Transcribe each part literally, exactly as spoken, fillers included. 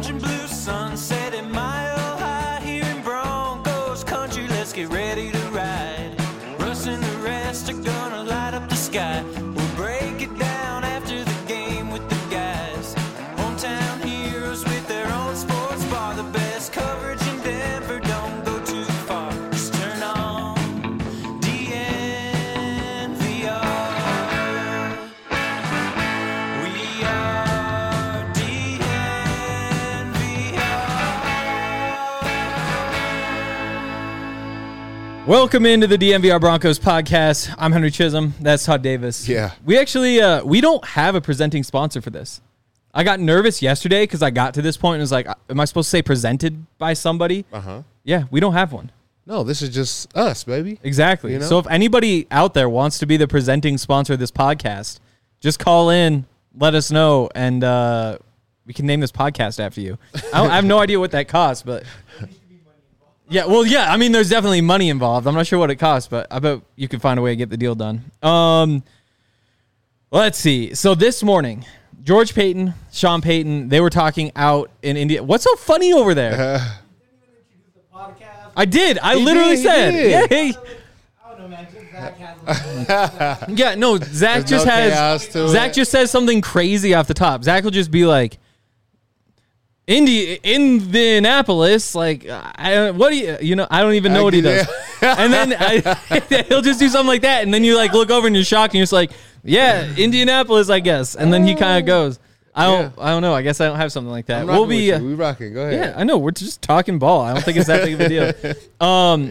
orange and blue sunset at Mile High here in Broncos country. Let's get ready to ride. Russ and the rest are gonna light up the sky. We'll break it down after the game with the guys. Hometown heroes with their own sports bar. The best coverage in Denver, don't go too far. Just turn on D N V R. We are D N V R. Welcome into the D N V R Broncos podcast. I'm Henry Chisholm. That's Todd Davis. Yeah. We actually, uh, we don't have a presenting sponsor for this. I got nervous yesterday because I got to this point and was like, am I supposed to say presented by somebody? Uh-huh. Yeah, we don't have one. No, this is just us, baby. Exactly. You know? So if anybody out there wants to be the presenting sponsor of this podcast, just call in, let us know, and uh, we can name this podcast after you. I, don't, I have no idea what that costs, but... Yeah, well, yeah, I mean, there's definitely money involved. I'm not sure what it costs, but I bet you can find a way to get the deal done. Um, let's see. So this morning, George Paton, Sean Payton, they were talking out in India. What's so funny over there? Uh, I did. I He literally did, he said, did. yeah, hey. I don't know, man. Zach has a Yeah, no, Zach There's just no has, chaos to Zach it. just says something crazy off the top. Zach will just be like, Indi- Indianapolis, like, I don't, what do you, you know, I don't even know I what he get does. And then I, he'll just do something like that. And then you like look over and you're shocked and you're just like, yeah, Indianapolis, I guess. And then he kind of goes, I don't, I don't know. I guess I don't have something like that. I'm We'll rocking be, with uh, you. We rocking. Go ahead. yeah, I know. We're just talking ball. I don't think it's that big of a deal. Um,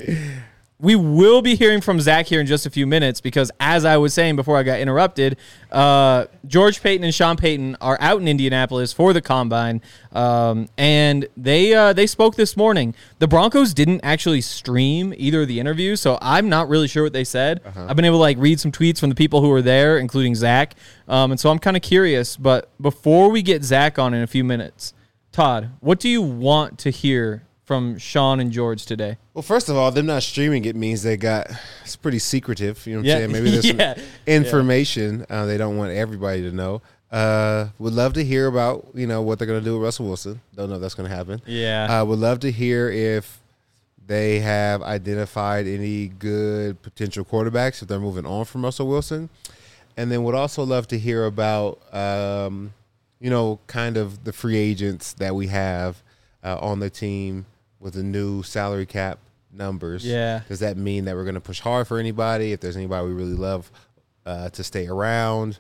we will be hearing from Zach here in just a few minutes because, as I was saying before I got interrupted, uh, George Paton and Sean Payton are out in Indianapolis for the Combine, um, and they uh, they spoke this morning. The Broncos didn't actually stream either of the interviews, so I'm not really sure what they said. Uh-huh. I've been able to like read some tweets from the people who were there, including Zach, um, and so I'm kind of curious. But before we get Zach on in a few minutes, Todd, what do you want to hear from Sean and George today? Well, first of all, them not streaming it means they got it's pretty secretive. You know what Yeah. I'm saying? Maybe there's Yeah. some information uh, they don't want everybody to know. Uh, would love to hear about you know what they're gonna do with Russell Wilson. Don't know if that's gonna happen. Yeah. Uh, would love to hear if they have identified any good potential quarterbacks if they're moving on from Russell Wilson, and then would also love to hear about um, you know kind of the free agents that we have uh, on the team with the new salary cap numbers. Yeah. Does that mean that we're going to push hard for anybody? If there's anybody we really love uh, to stay around?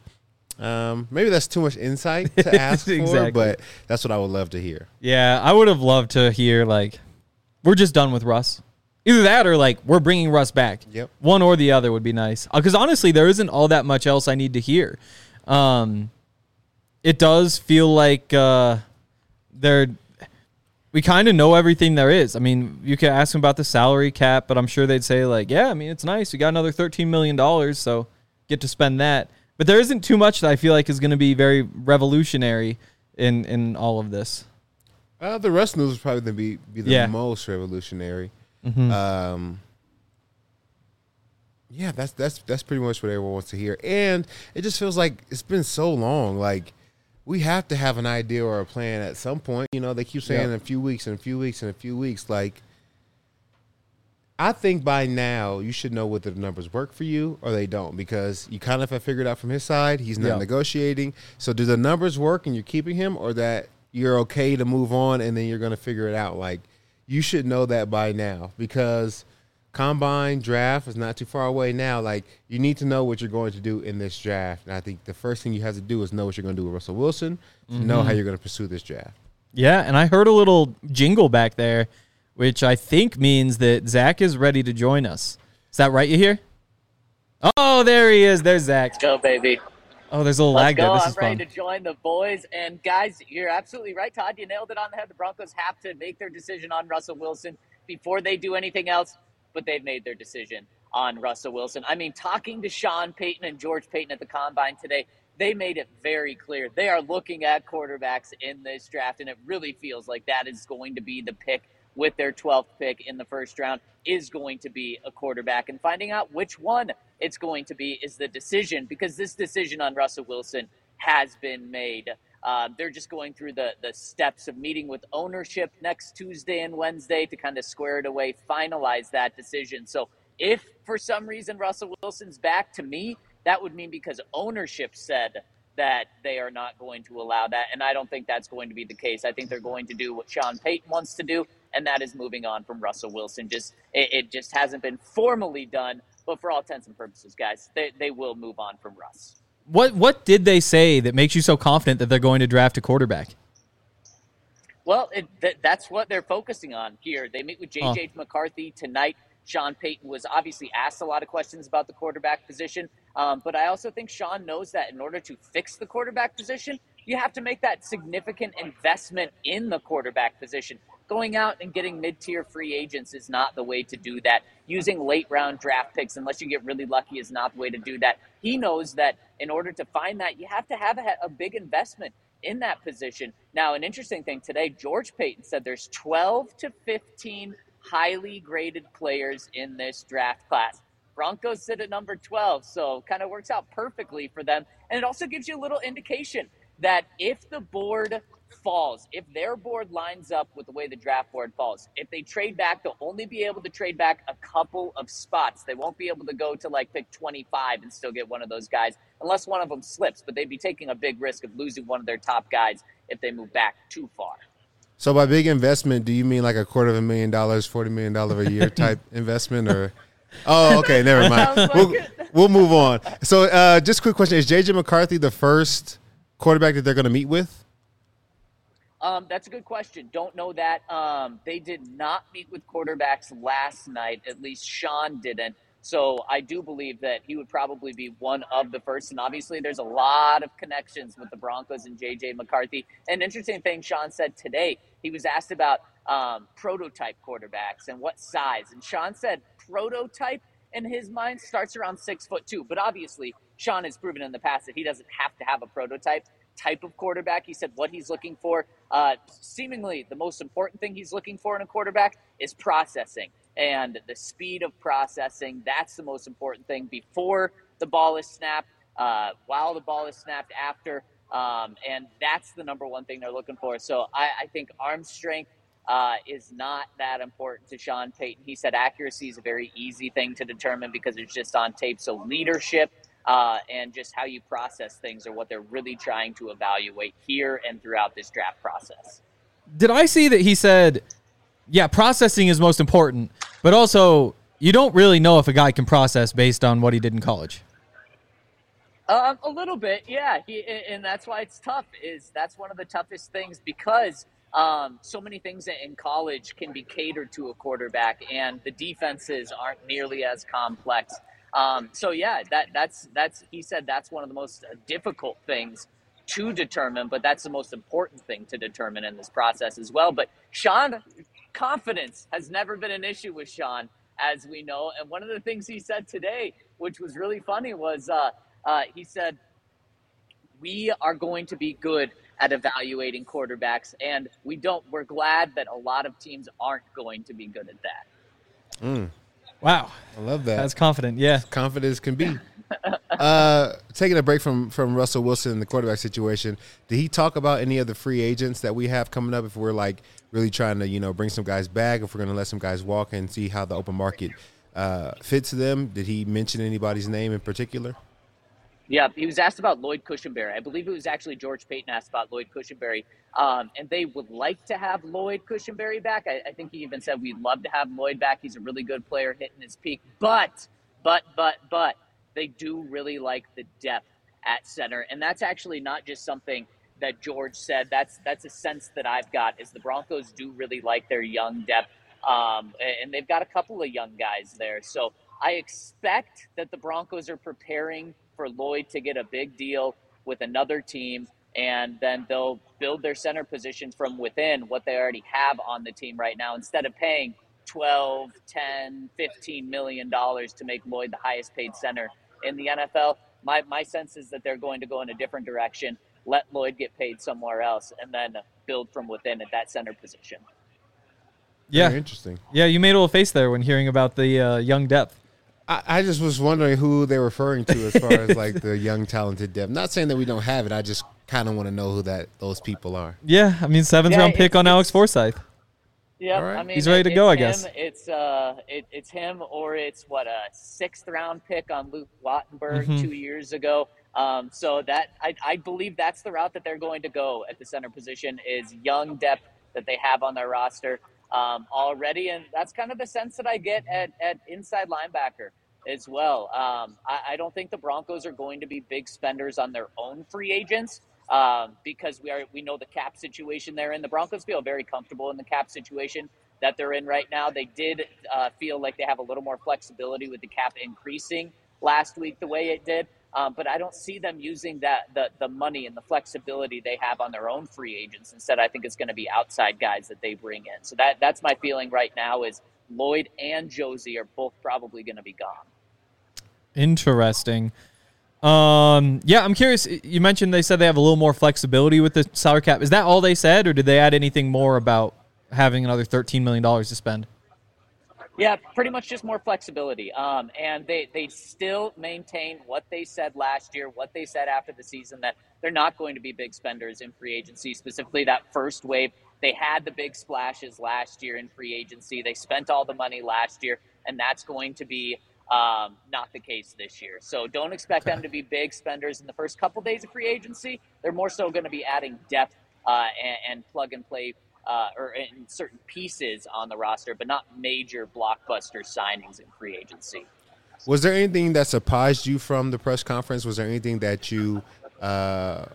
Um, maybe that's too much insight to ask Exactly. for, but that's what I would love to hear. Yeah, I would have loved to hear, like, we're just done with Russ. Either that or, like, we're bringing Russ back. Yep. One or the other would be nice. Because, honestly, there isn't all that much else I need to hear. Um, it does feel like uh, they're... We kind of know everything there is. I mean, you could ask them about the salary cap, but I'm sure they'd say, like, yeah, I mean, it's nice. We got another thirteen million dollars, so get to spend that. But there isn't too much that I feel like is going to be very revolutionary in, in all of this. Uh, the Russ news is probably going to be, be the Yeah. most revolutionary. Mm-hmm. Um, yeah, that's that's that's pretty much what everyone wants to hear. And it just feels like it's been so long. Like, we have to have an idea or a plan at some point. You know, they keep saying Yep. in a few weeks and a few weeks and a few weeks. Like, I think by now you should know whether the numbers work for you or they don't, because you kind of have figured out from his side he's not Yep. negotiating. So do the numbers work and you're keeping him, or that you're okay to move on and then you're going to figure it out? Like, you should know that by now, because Combine draft is not too far away now. Like, you need to know what you're going to do in this draft. And I think the first thing you have to do is know what you're going to do with Russell Wilson, to Mm-hmm. know how you're going to pursue this draft. Yeah, and I heard a little jingle back there, which I think means that Zach is ready to join us. Is that right, you hear? Oh, there he is. There's Zach. Let's go, baby. Oh, there's a little Let's lag there. go. This I'm is ready fun. to join the boys. And, guys, you're absolutely right, Todd. You nailed it on the head. The Broncos have to make their decision on Russell Wilson before they do anything else, but they've made their decision on Russell Wilson. I mean, talking to Sean Payton and George Paton at the Combine today, they made it very clear. They are looking at quarterbacks in this draft, and it really feels like that is going to be the pick with their twelfth pick in the first round, is going to be a quarterback. And finding out which one it's going to be is the decision, because this decision on Russell Wilson has been made. Uh, they're just going through the, the steps of meeting with ownership next Tuesday and Wednesday to kind of square it away, finalize that decision. So if for some reason Russell Wilson's back, to me, that would mean because ownership said that they are not going to allow that. And I don't think that's going to be the case. I think they're going to do what Sean Payton wants to do, and that is moving on from Russell Wilson. Just it, it just hasn't been formally done, but for all intents and purposes, guys, they, they will move on from Russ. What what did they say that makes you so confident that they're going to draft a quarterback? Well, it, th- that's what they're focusing on here. They meet with J J oh. McCarthy tonight. Sean Payton was obviously asked a lot of questions about the quarterback position, um, but I also think Sean knows that in order to fix the quarterback position, you have to make that significant investment in the quarterback position. Going out and getting mid-tier free agents is not the way to do that. Using late-round draft picks, unless you get really lucky, is not the way to do that. He knows that in order to find that, you have to have a, a big investment in that position. Now, an interesting thing today, George Paton said there's twelve to fifteen highly graded players in this draft class. Broncos sit at number twelve, so kind of works out perfectly for them. And it also gives you a little indication that if the board falls, if their board lines up with the way the draft board falls, if they trade back, they'll only be able to trade back a couple of spots. They won't be able to go to like pick twenty-five and still get one of those guys unless one of them slips, but they'd be taking a big risk of losing one of their top guys if they move back too far. So by big investment, do you mean like a quarter of a million dollars, forty million dollars a year type investment, or? Oh, okay, never mind. Like we'll, we'll move on. So uh, just a quick question. Is J J McCarthy the first quarterback that they're going to meet with? Um, that's a good question. Don't know that. Um, they did not meet with quarterbacks last night. At least Sean didn't. So I do believe that he would probably be one of the first. And obviously there's a lot of connections with the Broncos and J J McCarthy. An interesting thing Sean said today, he was asked about um, prototype quarterbacks and what size. And Sean said prototype in his mind starts around six foot two. But obviously Sean has proven in the past that he doesn't have to have a prototype type of quarterback. He said what he's looking for, uh, seemingly the most important thing he's looking for in a quarterback is processing. And the speed of processing, that's the most important thing before the ball is snapped, uh, while the ball is snapped, after. Um, and that's the number one thing they're looking for. So I, I think arm strength uh, is not that important to Sean Payton. He said accuracy is a very easy thing to determine because it's just on tape. So leadership uh, and just how you process things are what they're really trying to evaluate here and throughout this draft process. Did I see that he said, yeah, processing is most important, but also you don't really know if a guy can process based on what he did in college? Um, a little bit, yeah. He, and that's why it's tough. Is that's one of the toughest things because um, so many things in college can be catered to a quarterback, and the defenses aren't nearly as complex. Um, so yeah, that that's that's he said that's one of the most difficult things to determine, but that's the most important thing to determine in this process as well. But Sean, confidence has never been an issue with Sean, as we know. And one of the things he said today, which was really funny, was uh, uh, he said, we are going to be good at evaluating quarterbacks, and we don't. We're glad that a lot of teams aren't going to be good at that. Mm. Wow. I love that. That's confident, yeah. Confident as can be. uh, taking a break from, from Russell Wilson and the quarterback situation, did he talk about any of the free agents that we have coming up if we're, like, really trying to, you know, bring some guys back, if we're going to let some guys walk and see how the open market uh, fits them? Did he mention anybody's name in particular? Yeah, he was asked about Lloyd Cushenberry. I believe it was actually George Paton asked about Lloyd Cushenberry. Um, and they would like to have Lloyd Cushenberry back. I, I think he even said we'd love to have Lloyd back. He's a really good player hitting his peak. But, but, but, but, they do really like the depth at center. And that's actually not just something that George said. That's that's a sense that I've got is the Broncos do really like their young depth. Um, and they've got a couple of young guys there. So I expect that the Broncos are preparing for Lloyd to get a big deal with another team, and then they'll build their center position from within what they already have on the team right now instead of paying twelve, ten, fifteen million dollars to make Lloyd the highest paid center in the N F L. My my sense is that they're going to go in a different direction, let Lloyd get paid somewhere else, and then build from within at that center position. Yeah. Very interesting. Yeah, you made a little face there when hearing about the uh, young depth. I, I just was wondering who they're referring to as far as like the young talented depth. Not saying that we don't have it. I just kind of want to know who that those people are. Yeah, I mean, seventh Yeah, round pick it's- on Alex Forsyth. Yeah, All right. I mean, He's ready to it- go, it's I guess. him, It's uh, it, it's him, or it's what a sixth round pick on Luke Wattenberg Mhm. two years ago. Um, so that I, I believe that's the route that they're going to go at the center position is young depth that they have on their roster um, already, and that's kind of the sense that I get at, at inside linebacker as well. Um, I, I don't think the Broncos are going to be big spenders on their own free agents. Um, because we are we know the cap situation they're in. The Broncos feel very comfortable in the cap situation that they're in right now. They did uh, feel like they have a little more flexibility with the cap increasing last week the way it did. Um, but I don't see them using that the the money and the flexibility they have on their own free agents. Instead, I think it's going to be outside guys that they bring in. So that that's my feeling right now is Lloyd and Josie are both probably going to be gone. Interesting. Um, yeah, I'm curious. You mentioned they said they have a little more flexibility with the salary cap. Is that all they said, or did they add anything more about having another thirteen million dollars to spend? Yeah, pretty much just more flexibility. Um, and they, they still maintain what they said last year, what they said after the season, that they're not going to be big spenders in free agency, specifically that first wave. They had the big splashes last year in free agency. They spent all the money last year, and that's going to be um, not the case this year. So don't expect them to be big spenders in the first couple days of free agency. They're more so going to be adding depth uh, and, and plug and play Uh, or in certain pieces on the roster, but not major blockbuster signings in free agency. Was there anything that surprised you from the press conference? Was there anything that you uh,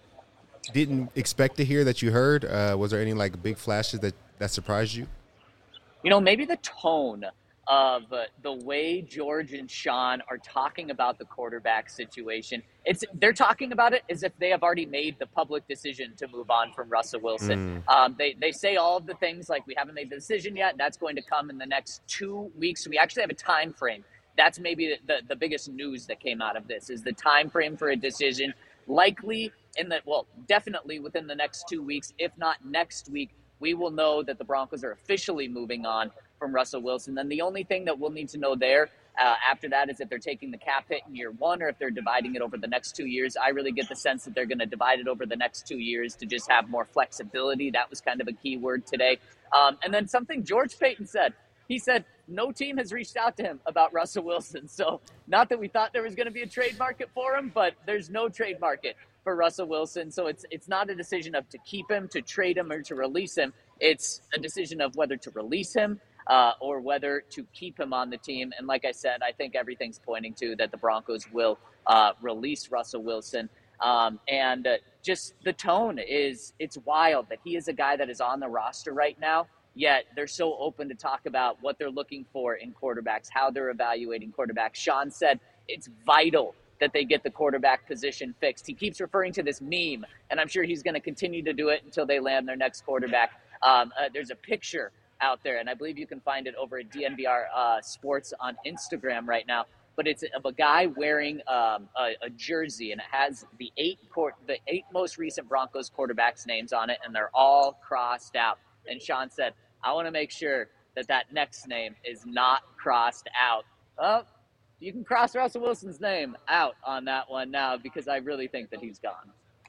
didn't expect to hear that you heard? Uh, was there any like big flashes that, that surprised you? You know, maybe the tone of uh, the way George and Sean are talking about the quarterback situation. It's they're talking about it as if they have already made the public decision to move on from Russell Wilson. Mm. Um, they they say all of the things like we haven't made the decision yet. That's going to come in the next two weeks. We actually have a time frame. That's maybe the, the, the biggest news that came out of this is the time frame for a decision. Likely in the well, definitely within the next two weeks, if not next week. We will know that the Broncos are officially moving on from Russell Wilson. Then the only thing that we'll need to know there uh, after that is if they're taking the cap hit in year one or if they're dividing it over the next two years. I really get the sense that they're going to divide it over the next two years to just have more flexibility. That was kind of a key word today. Um, and then something George Paton said. He said no team has reached out to him about Russell Wilson. So not that we thought there was going to be a trade market for him, but there's no trade market for Russell Wilson. So it's it's not a decision of to keep him, to trade him, or to release him. It's a decision of whether to release him uh, or whether to keep him on the team. And like I said, I think everything's pointing to that the Broncos will uh, release Russell Wilson. Um, and uh, just the tone is, it's wild that he is a guy that is on the roster right now, yet they're so open to talk about what they're looking for in quarterbacks, how they're evaluating quarterbacks. Sean said it's vital that they get the quarterback position fixed. He keeps referring to this meme, and I'm sure he's going to continue to do it until they land their next quarterback. Um, uh, there's a picture out there, and I believe you can find it over at D N V R uh, Sports on Instagram right now. But it's of a guy wearing um, a, a jersey, and it has the eight court, the eight most recent Broncos quarterbacks' names on it, and they're all crossed out. And Sean said, "I want to make sure that that next name is not crossed out." Well, you can cross Russell Wilson's name out on that one now because I really think that he's gone.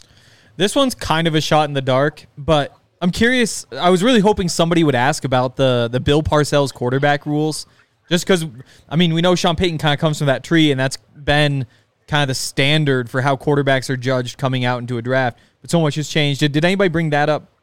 This one's kind of a shot in the dark, but I'm curious. I was really hoping somebody would ask about the the Bill Parcells quarterback rules, just because, I mean, we know Sean Payton kind of comes from that tree, and that's been kind of the standard for how quarterbacks are judged coming out into a draft. But so much has changed. Did, did anybody bring that up?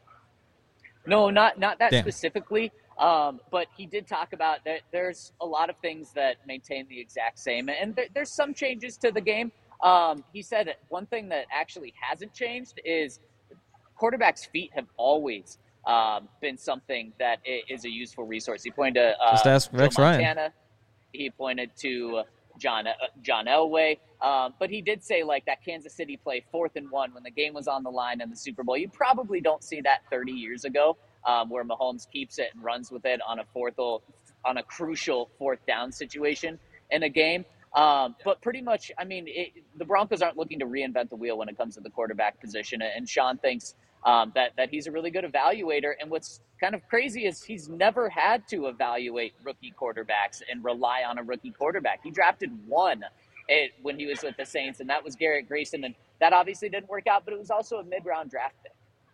No, not not that Damn. specifically. Um, but he did talk about that there's a lot of things that maintain the exact same, and there, there's some changes to the game. Um, he said that one thing that actually hasn't changed is quarterbacks' feet have always um, been something that is a useful resource. He pointed to uh, Just ask Rex Joe Ryan. Montana. He pointed to John uh, John Elway. Um, but he did say, like, that Kansas City play fourth and one when the game was on the line in the Super Bowl. You probably don't see that thirty years ago, um, where Mahomes keeps it and runs with it on a fourth, on a crucial fourth down situation in a game. Um, but pretty much, I mean, it, the Broncos aren't looking to reinvent the wheel when it comes to the quarterback position. And Sean thinks um, that, that he's a really good evaluator. And what's kind of crazy is he's never had to evaluate rookie quarterbacks and rely on a rookie quarterback. He drafted one it, when he was with the Saints, and that was Garrett Grayson. And that obviously didn't work out, but it was also a mid-round draft pick.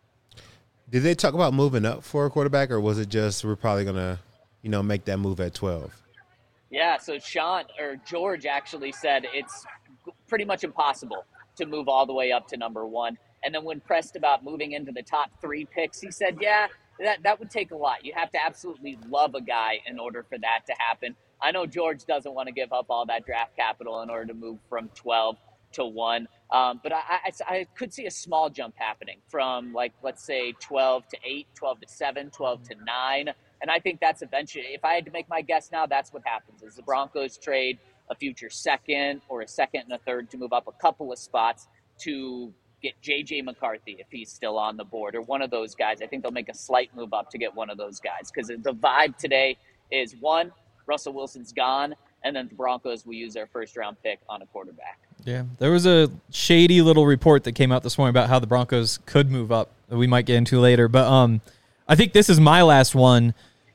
Did they talk about moving up for a quarterback, or was it just we're probably going to, you know, make that move at twelve? Yeah, so Sean or George actually said it's pretty much impossible to move all the way up to number one. And then when pressed about moving into the top three picks, he said, yeah, that, that would take a lot. You have to absolutely love a guy in order for that to happen. I know George doesn't want to give up all that draft capital in order to move from twelve to one. Um, but I, I, I could see a small jump happening from, like, let's say twelve to eight, twelve to seven, twelve to nine. And I think that's eventually, if I had to make my guess now, that's what happens is the Broncos trade a future second or a second and a third to move up a couple of spots to get J J McCarthy if he's still on the board, or one of those guys. I think they'll make a slight move up to get one of those guys, because the vibe today is, one, Russell Wilson's gone, and then the Broncos will use their first round pick on a quarterback. Yeah, there was a shady little report that came out this morning about how the Broncos could move up that we might get into later. But um, I think this is my last one.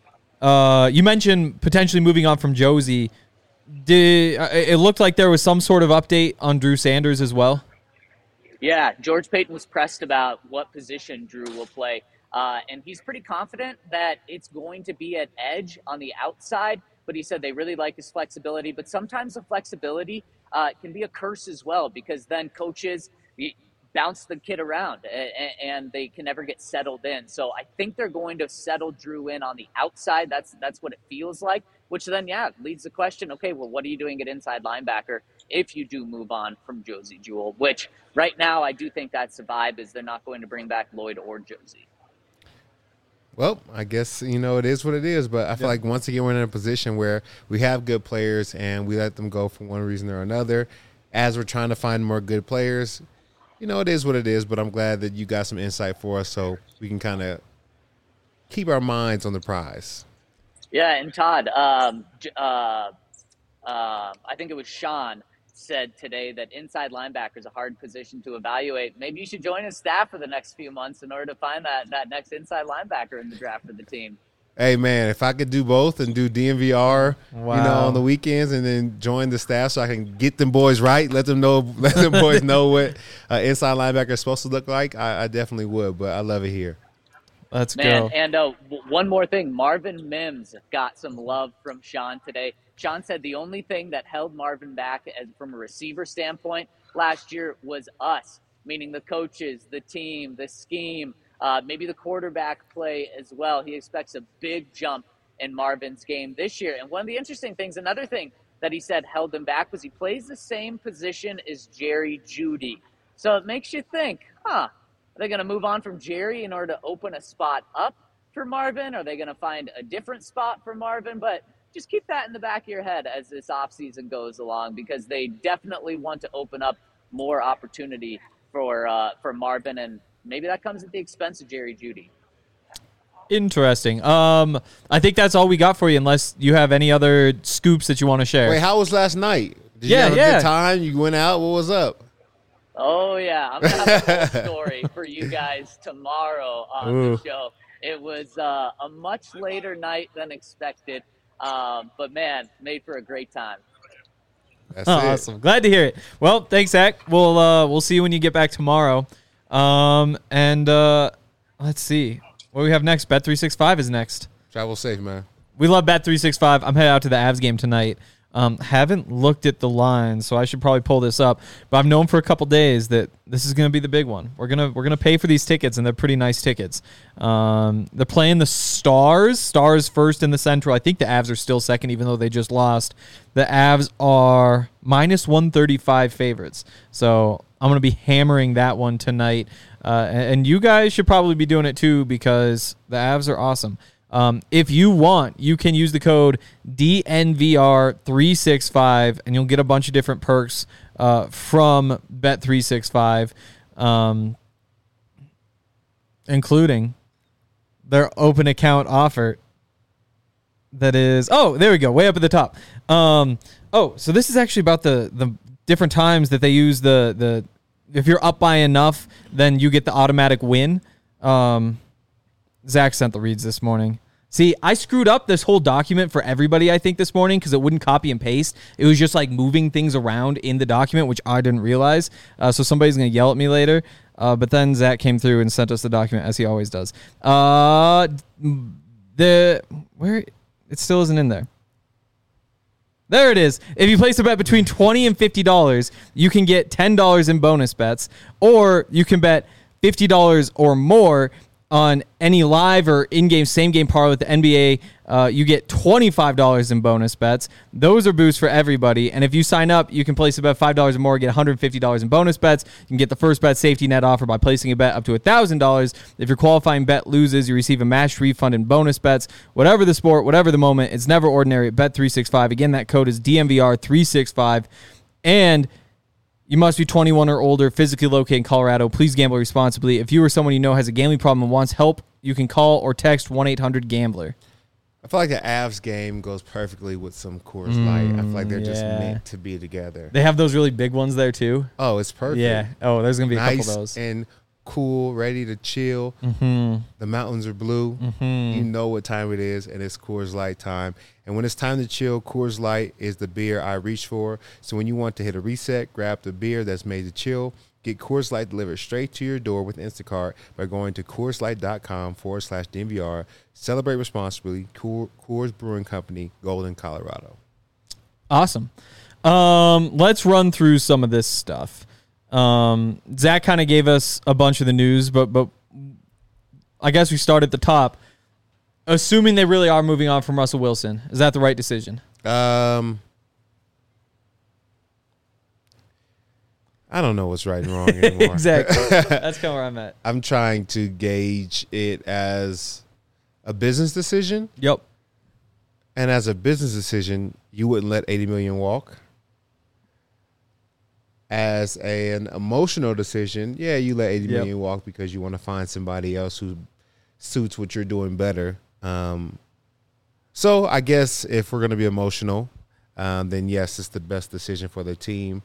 Uh, you mentioned potentially moving on from Josie. Did it looked like there was some sort of update on Drew Sanders as well? Yeah, George Paton was pressed about what position Drew will play. Uh, and he's pretty confident that it's going to be at edge on the outside. But he said they really like his flexibility. But sometimes the flexibility uh, can be a curse as well, because then coaches bounce the kid around and, and they can never get settled in. So I think they're going to settle Drew in on the outside. That's that's what it feels like, which then, yeah, leads the question, okay, well, what are you doing at inside linebacker if you do move on from Josie Jewell, which right now I do think that's the vibe, is they're not going to bring back Lloyd or Josie. Well, I guess, you know, it is what it is, but I feel yeah. like once again we're in a position where we have good players and we let them go for one reason or another. As we're trying to find more good players, you know, it is what it is, but I'm glad that you got some insight for us so we can kind of keep our minds on the prize. Yeah, and Todd, um, uh, uh, I think it was Sean, said today that inside linebacker is a hard position to evaluate. Maybe you should join his staff for the next few months in order to find that, that next inside linebacker in the draft for the team. Hey, man, if I could do both and do D N V R, wow. you know, on the weekends and then join the staff so I can get them boys right, let them know, let them boys know what uh, inside linebacker is supposed to look like, I, I definitely would, but I love it here. Let's Man, go. And uh, one more thing, Marvin Mims got some love from Sean today. Sean said the only thing that held Marvin back as, from a receiver standpoint last year was us, meaning the coaches, the team, the scheme, uh, maybe the quarterback play as well. He expects a big jump in Marvin's game this year. And one of the interesting things, another thing that he said held him back, was he plays the same position as Jerry Jeudy. So it makes you think, huh, are they going to move on from Jerry in order to open a spot up for Marvin? Are they going to find a different spot for Marvin? But just keep that in the back of your head as this offseason goes along, because they definitely want to open up more opportunity for uh, for Marvin, and maybe that comes at the expense of Jerry Jeudy. Interesting. Um, I think that's all we got for you, unless you have any other scoops that you want to share. Wait, how was last night? Did yeah, you have a yeah. good time? You went out? What was up? Oh, yeah. I'm going to have a whole story for you guys tomorrow on Ooh. the show. It was uh, a much later night than expected. Um, but, man, made for a great time. That's oh, it. Awesome. Glad to hear it. Well, thanks, Zach. We'll uh, we'll see you when you get back tomorrow. Um, and uh, let's see. What do we have next? Bet three sixty-five is next. Travel safe, man. We love Bet three sixty-five. I'm headed out to the Avs game tonight. Um, haven't looked at the lines, so I should probably pull this up. But I've known for a couple days that this is going to be the big one. We're gonna we're gonna pay for these tickets, and they're pretty nice tickets. Um, they're playing the Stars. Stars first in the Central. I think the Avs are still second, even though they just lost. The Avs are minus one thirty-five favorites. So I'm gonna be hammering that one tonight. Uh, and, and you guys should probably be doing it too, because the Avs are awesome. Um, if you want, you can use the code D N V R three sixty-five, and you'll get a bunch of different perks uh, from Bet three sixty-five, um, including their open account offer. That is, oh, there we go, way up at the top. Um, oh, so this is actually about the the different times that they use the the. If you're up by enough, then you get the automatic win. Um, Zach sent the reads this morning. See, I screwed up this whole document for everybody, I think, this morning because it wouldn't copy and paste. It was just like moving things around in the document, which I didn't realize. Uh, so somebody's going to yell at me later. Uh, but then Zach came through and sent us the document, as he always does. Uh, the where it still isn't in there. There it is. If you place a bet between twenty dollars and fifty dollars, you can get ten dollars in bonus bets, or you can bet fifty dollars or more on any live or in-game, same-game parlay with the N B A. Uh, you get twenty-five dollars in bonus bets. Those are boosts for everybody. And if you sign up, you can place a bet five dollars or more, get one hundred fifty dollars in bonus bets. You can get the first bet safety net offer by placing a bet up to one thousand dollars. If your qualifying bet loses, you receive a matched refund in bonus bets. Whatever the sport, whatever the moment, it's never ordinary at Bet three sixty-five. Again, that code is D M V R three sixty-five. And you must be twenty-one or older, physically located in Colorado. Please gamble responsibly. If you or someone you know has a gambling problem and wants help, you can call or text one eight hundred gambler. I feel like the Avs game goes perfectly with some Coors Light. I feel like they're just yeah. meant to be together. They have those really big ones there, too. Oh, it's perfect. Yeah. Oh, there's going to be a nice couple of those. And cool, ready to chill. Mm-hmm. The mountains are blue. Mm-hmm. You know what time it is, and it's Coors Light time. And when it's time to chill, Coors Light is the beer I reach for. So when you want to hit a reset, grab the beer that's made to chill. Get Coors Light delivered straight to your door with Instacart by going to CoorsLight.com forward slash DNVR. Celebrate responsibly. Coors Brewing Company, Golden, Colorado. Awesome. Um, let's run through some of this stuff. Um, Zach kind of gave us a bunch of the news, but but I guess we start at the top. Assuming they really are moving on from Russell Wilson, is that the right decision? Um, I don't know what's right and wrong anymore. Exactly. That's kind of where I'm at. I'm trying to gauge it as a business decision. Yep. And as a business decision, you wouldn't let eighty million walk. As a, an emotional decision, yeah, you let eighty Yep. million walk because you want to find somebody else who suits what you're doing better. Um, so I guess if we're going to be emotional, um, then yes, it's the best decision for the team.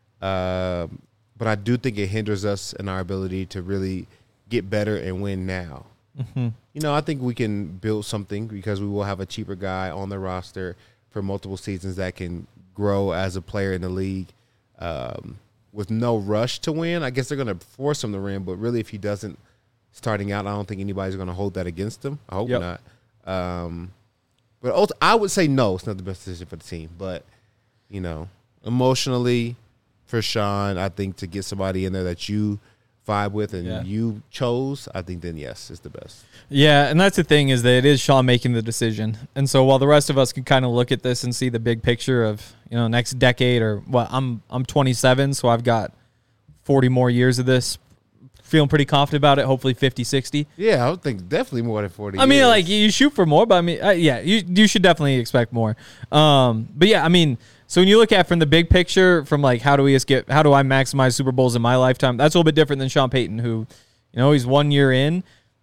Um, but I do think it hinders us in our ability to really get better and win now. Mm-hmm. You know, I think we can build something because we will have a cheaper guy on the roster for multiple seasons that can grow as a player in the league um, with no rush to win. I guess they're going to force him to win, but really if he doesn't starting out, I don't think anybody's going to hold that against him. I hope Yep. not. Um, but ult- I would say no, it's not the best decision for the team. But, you know, emotionally for Sean, I think to get somebody in there that you vibe with and Yeah. you chose, I think then yes, it's the best. Yeah, and that's the thing is that it is Sean making the decision. And so while the rest of us can kind of look at this and see the big picture of, you know, next decade or what, I'm I'm twenty-seven, so I've got forty more years of this. Feeling pretty confident about it, hopefully fifty, sixty. Yeah, I would think definitely more than forty I mean, years. like, you shoot for more, but I mean, uh, yeah, you you should definitely expect more. Um, but yeah, I mean, so when you look at from the big picture, from like how do we get, how do I maximize Super Bowls in my lifetime? That's a little bit different than Sean Payton, who, you know, he's one year in.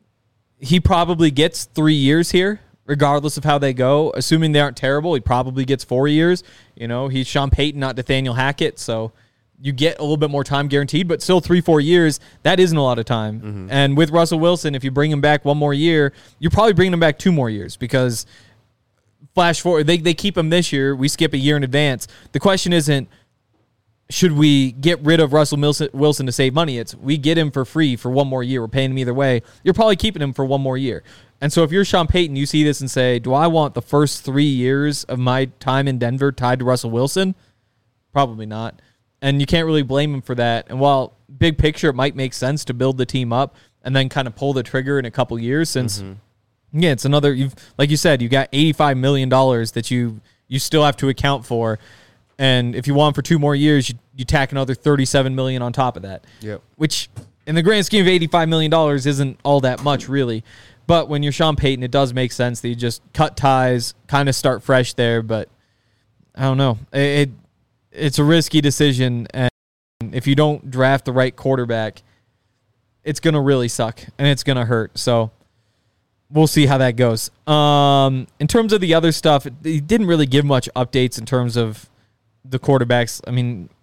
He probably gets three years here, regardless of how they go. Assuming they aren't terrible, he probably gets four years. You know, he's Sean Payton, not Nathaniel Hackett, so you get a little bit more time guaranteed, but still three, four years, that isn't a lot of time. Mm-hmm. And with Russell Wilson, if you bring him back one more year, you're probably bringing him back two more years because flash forward, they, they keep him this year. We skip a year in advance. The question isn't, should we get rid of Russell Wilson to save money? It's we get him for free for one more year. We're paying him either way. You're probably keeping him for one more year. And so if you're Sean Payton, you see this and say, do I want the first three years of my time in Denver tied to Russell Wilson? Probably not. And you can't really blame him for that. And while big picture, it might make sense to build the team up and then kind of pull the trigger in a couple years since, mm-hmm. yeah, it's another, you've like you said, you got eighty-five million dollars that you you still have to account for. And if you want for two more years, you, you tack another thirty-seven million dollars on top of that. Yep. Which, in the grand scheme of eighty-five million dollars, isn't all that much, really. But when you're Sean Payton, it does make sense that you just cut ties, kind of start fresh there. But I don't know. It, it It's a risky decision, and if you don't draft the right quarterback, it's going to really suck, and it's going to hurt. So we'll see how that goes. Um, in terms of the other stuff, he didn't really give much updates in terms of the quarterbacks. I mean,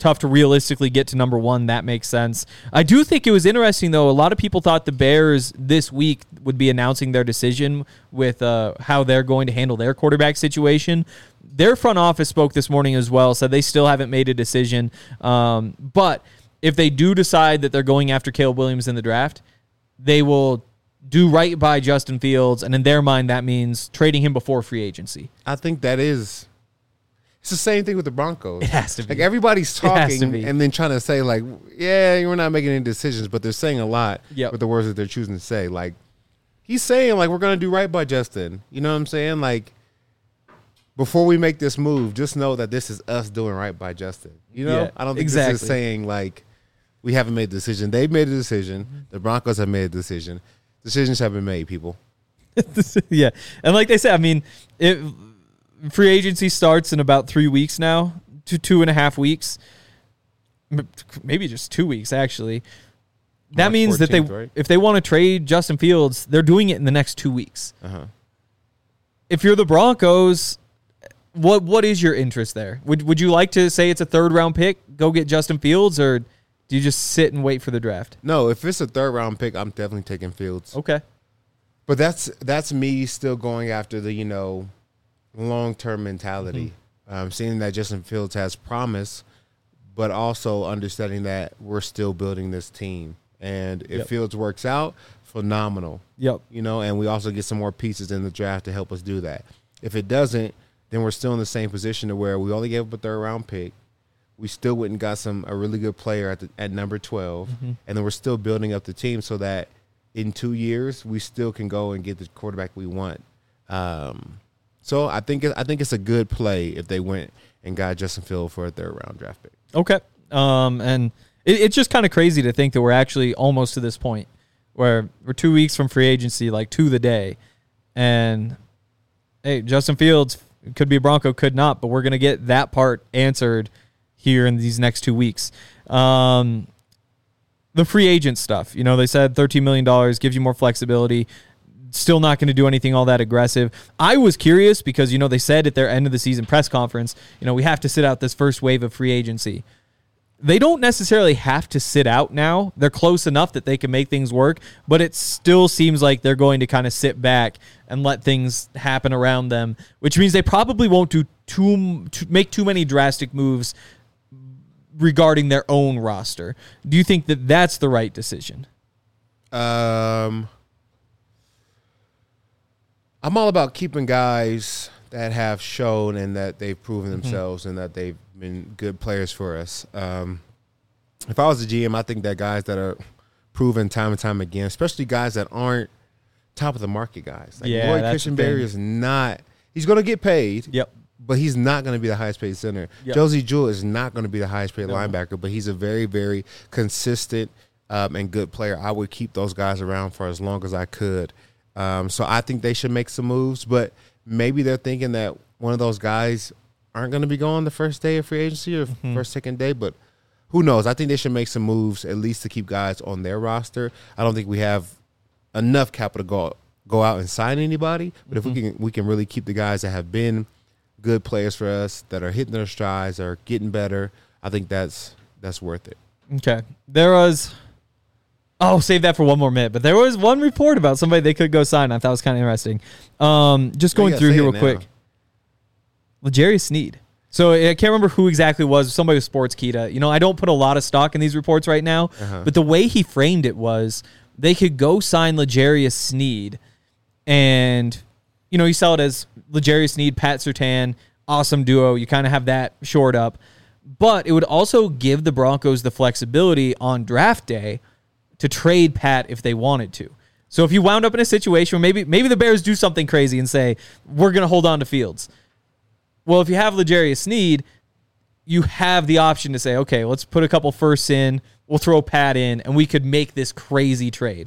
tough to realistically get to number one. That makes sense. I do think it was interesting, though. A lot of people thought the Bears this week would be announcing their decision with uh, how they're going to handle their quarterback situation. Their front office spoke this morning as well, said they still haven't made a decision. Um, but if they do decide that they're going after Caleb Williams in the draft, they will do right by Justin Fields, and in their mind, that means trading him before free agency. I think that is. It's the same thing with the Broncos. It has to be. Like, everybody's It has to talking be. and then trying to say, like, yeah, we're not making any decisions, but they're saying a lot Yep. with the words that they're choosing to say. Like, he's saying, like, we're going to do right by Justin. You know what I'm saying? Like, before we make this move, just know that this is us doing right by Justin. You know? Yeah, I don't think exactly. this is saying, like, we haven't made a decision. They've made a decision. The Broncos have made a decision. Decisions have been made, people. Yeah, and like they said, I mean, it, free agency starts in about three weeks now, two two and a half weeks, M- maybe just two weeks actually. That March means that they, fourteenth, right? if they want to trade Justin Fields, they're doing it in the next two weeks. Uh-huh. If you're the Broncos, what what is your interest there? Would would you like to say it's a third round pick, go get Justin Fields, or do you just sit and wait for the draft? No, if it's a third round pick, I'm definitely taking Fields. Okay. But that's that's me still going after the, you know, long-term mentality. Mm-hmm. Um, seeing that Justin Fields has promise, but also understanding that we're still building this team. And if Yep. Fields works out, phenomenal. Yep. You know, and we also get some more pieces in the draft to help us do that. If it doesn't, then we're still in the same position to where we only gave up a third-round pick. We still went and got some a really good player at the, at number twelve, Mm-hmm. and then we're still building up the team so that in two years we still can go and get the quarterback we want. Um, so I think it, I think it's a good play if they went and got Justin Fields for a third round draft pick. Okay. Um, and it, it's just kind of crazy to think that we're actually almost to this point where we're two weeks from free agency, like to the day, and hey, Justin Fields could be a Bronco, could not, but we're gonna get that part answered here in these next two weeks. Um, the free agent stuff, you know, they said thirteen million dollars gives you more flexibility. Still not going to do anything all that aggressive. I was curious because, you know, they said at their end of the season press conference, you know, we have to sit out this first wave of free agency. They don't necessarily have to sit out now. They're close enough that they can make things work, but it still seems like they're going to kind of sit back and let things happen around them, which means they probably won't do too, too make too many drastic moves regarding their own roster. Do you think that that's the right decision? Um, I'm all about keeping guys that have shown and that they've proven themselves mm-hmm. and that they've been good players for us. Um, if I was a G M, I think that guys that are proven time and time again, especially guys that aren't top of the market guys. Like yeah, Roy that's Kitchenberry is not – he's going to get paid. Yep. But he's not going to be the highest paid center. Yep. Josie Jewell is not going to be the highest paid No. linebacker, but he's a very, very consistent um, and good player. I would keep those guys around for as long as I could. Um, so I think they should make some moves, but maybe they're thinking that one of those guys aren't going to be gone the first day of free agency or Mm-hmm. first, second day, but who knows? I think they should make some moves at least to keep guys on their roster. I don't think we have enough capital to go, go out and sign anybody, but Mm-hmm. if we can, we can really keep the guys that have been good players for us, that are hitting their strides, are getting better, I think that's that's worth it. Okay. There was – oh, save that for one more minute. But there was one report about somebody they could go sign. I thought it was kind of interesting. Um, just going Yeah, through say here it real now. quick. L'Jarius Sneed. So I can't remember who exactly it was. Somebody with Sportskeeda. You know, I don't put a lot of stock in these reports right now. Uh-huh. But the way he framed it was they could go sign L'Jarius Sneed and, you know, you sell it as L'Jarius Sneed, Pat Surtain, awesome duo. You kind of have that shored up. But it would also give the Broncos the flexibility on draft day to trade Pat if they wanted to. So if you wound up in a situation where maybe maybe the Bears do something crazy and say, we're going to hold on to Fields. Well, if you have L'Jarius Sneed, you have the option to say, okay, let's put a couple firsts in, we'll throw Pat in, and we could make this crazy trade.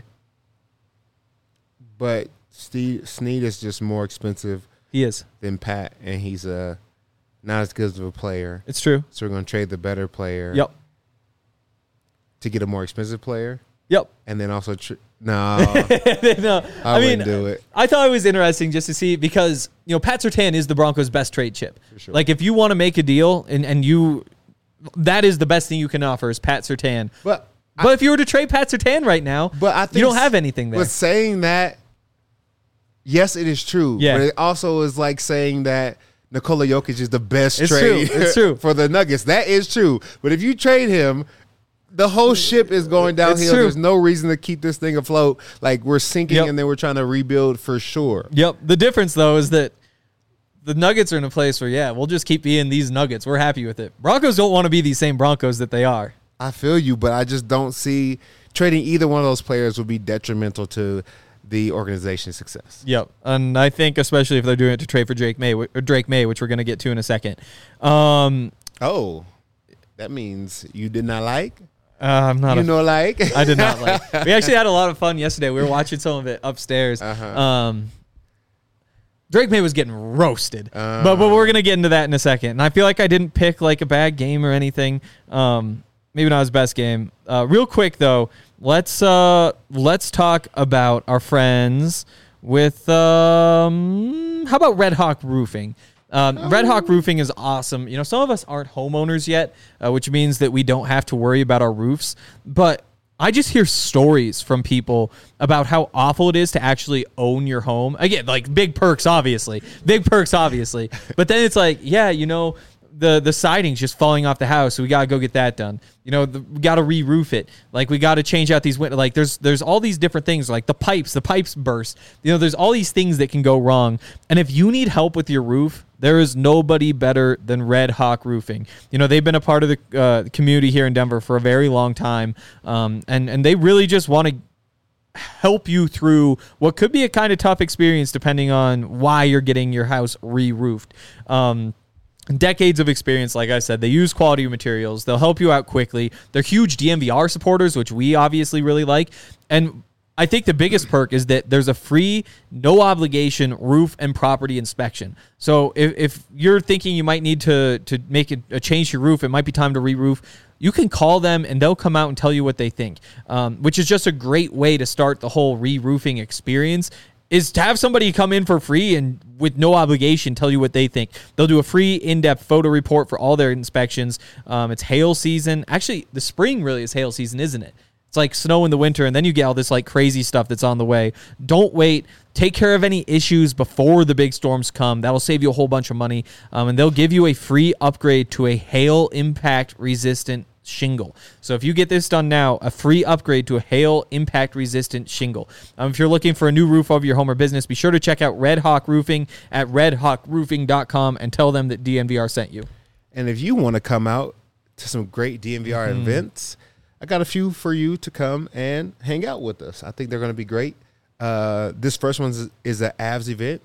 But Steve, Snead is just more expensive He is. than Pat, and he's uh, not as good of a player. It's true. So we're going to trade the better player Yep. to get a more expensive player, Yep. and then also tr- no, no, I, I mean, wouldn't do it. I thought it was interesting just to see because, you know, Pat Surtain is the Broncos' best trade chip. For sure. Like, if you want to make a deal and, and you that is the best thing you can offer is Pat Surtain. But but I, if you were to trade Pat Surtain right now, but I think you don't have anything there. But saying that, yes, it is true. Yeah. But it also is like saying that Nikola Jokic is the best It's trade true. It's true. for the Nuggets. That is true. But if you trade him, the whole ship is going downhill. true. There's no reason to keep this thing afloat. Like we're sinking Yep. and then we're trying to rebuild for sure. Yep. The difference, though, is that the Nuggets are in a place where, yeah, we'll just keep being these Nuggets. We're happy with it. Broncos don't want to be these same Broncos that they are. I feel you, but I just don't see trading either one of those players would be detrimental to the organization's success. Yep. And I think especially if they're doing it to trade for Drake May, or Drake May, which we're going to get to in a second. Um, Oh, that means you did not like? uh, I'm not You a know like? I did not like. We actually had a lot of fun yesterday. We were watching some of it upstairs. Uh-huh. Um, Drake May was getting roasted, Uh. but but we're gonna get into that in a second. And I feel like I didn't pick like a bad game or anything. Um, maybe not his best game. Uh, real quick though, let's uh let's talk about our friends with um how about Red Hawk Roofing. Um, Red Hawk Roofing is awesome. You know, some of us aren't homeowners yet, uh, which means that we don't have to worry about our roofs. But I just hear stories from people about how awful it is to actually own your home. Again, like big perks, obviously. Big perks, obviously. But then it's like, yeah, you know, the the siding's just falling off the house, so we got to go get that done. You know, the, we got to re-roof it. Like, we got to change out these windows. Like, there's there's all these different things, like the pipes, the pipes burst. You know, there's all these things that can go wrong. And if you need help with your roof, there is nobody better than Red Hawk Roofing. You know, they've been a part of the uh, community here in Denver for a very long time, um, and, and they really just want to help you through what could be a kind of tough experience depending on why you're getting your house re-roofed. Um, decades of experience, like I said. They use quality materials. They'll help you out quickly. They're huge D M V R supporters, which we obviously really like. And I think the biggest perk is that there's a free, no obligation roof and property inspection. So if, if you're thinking you might need to to make a, a change to your roof, it might be time to re-roof, you can call them and they'll come out and tell you what they think, um, which is just a great way to start the whole re-roofing experience, is to have somebody come in for free and with no obligation tell you what they think. They'll do a free in-depth photo report for all their inspections. Um, it's hail season. Actually, the spring really is hail season, isn't it? It's like snow in the winter, and then you get all this like crazy stuff that's on the way. Don't wait. Take care of any issues before the big storms come. That'll save you a whole bunch of money. Um, and they'll give you a free upgrade to a hail impact resistant shingle. So if you get this done now, a free upgrade to a hail impact resistant shingle. Um, if you're looking for a new roof over your home or business, be sure to check out Red Hawk Roofing at red hawk roofing dot com and tell them that D N V R sent you. And if you want to come out to some great D N V R mm-hmm. events, I got a few for you to come and hang out with us. I think they're going to be great. Uh, this first one is, is an Avs event.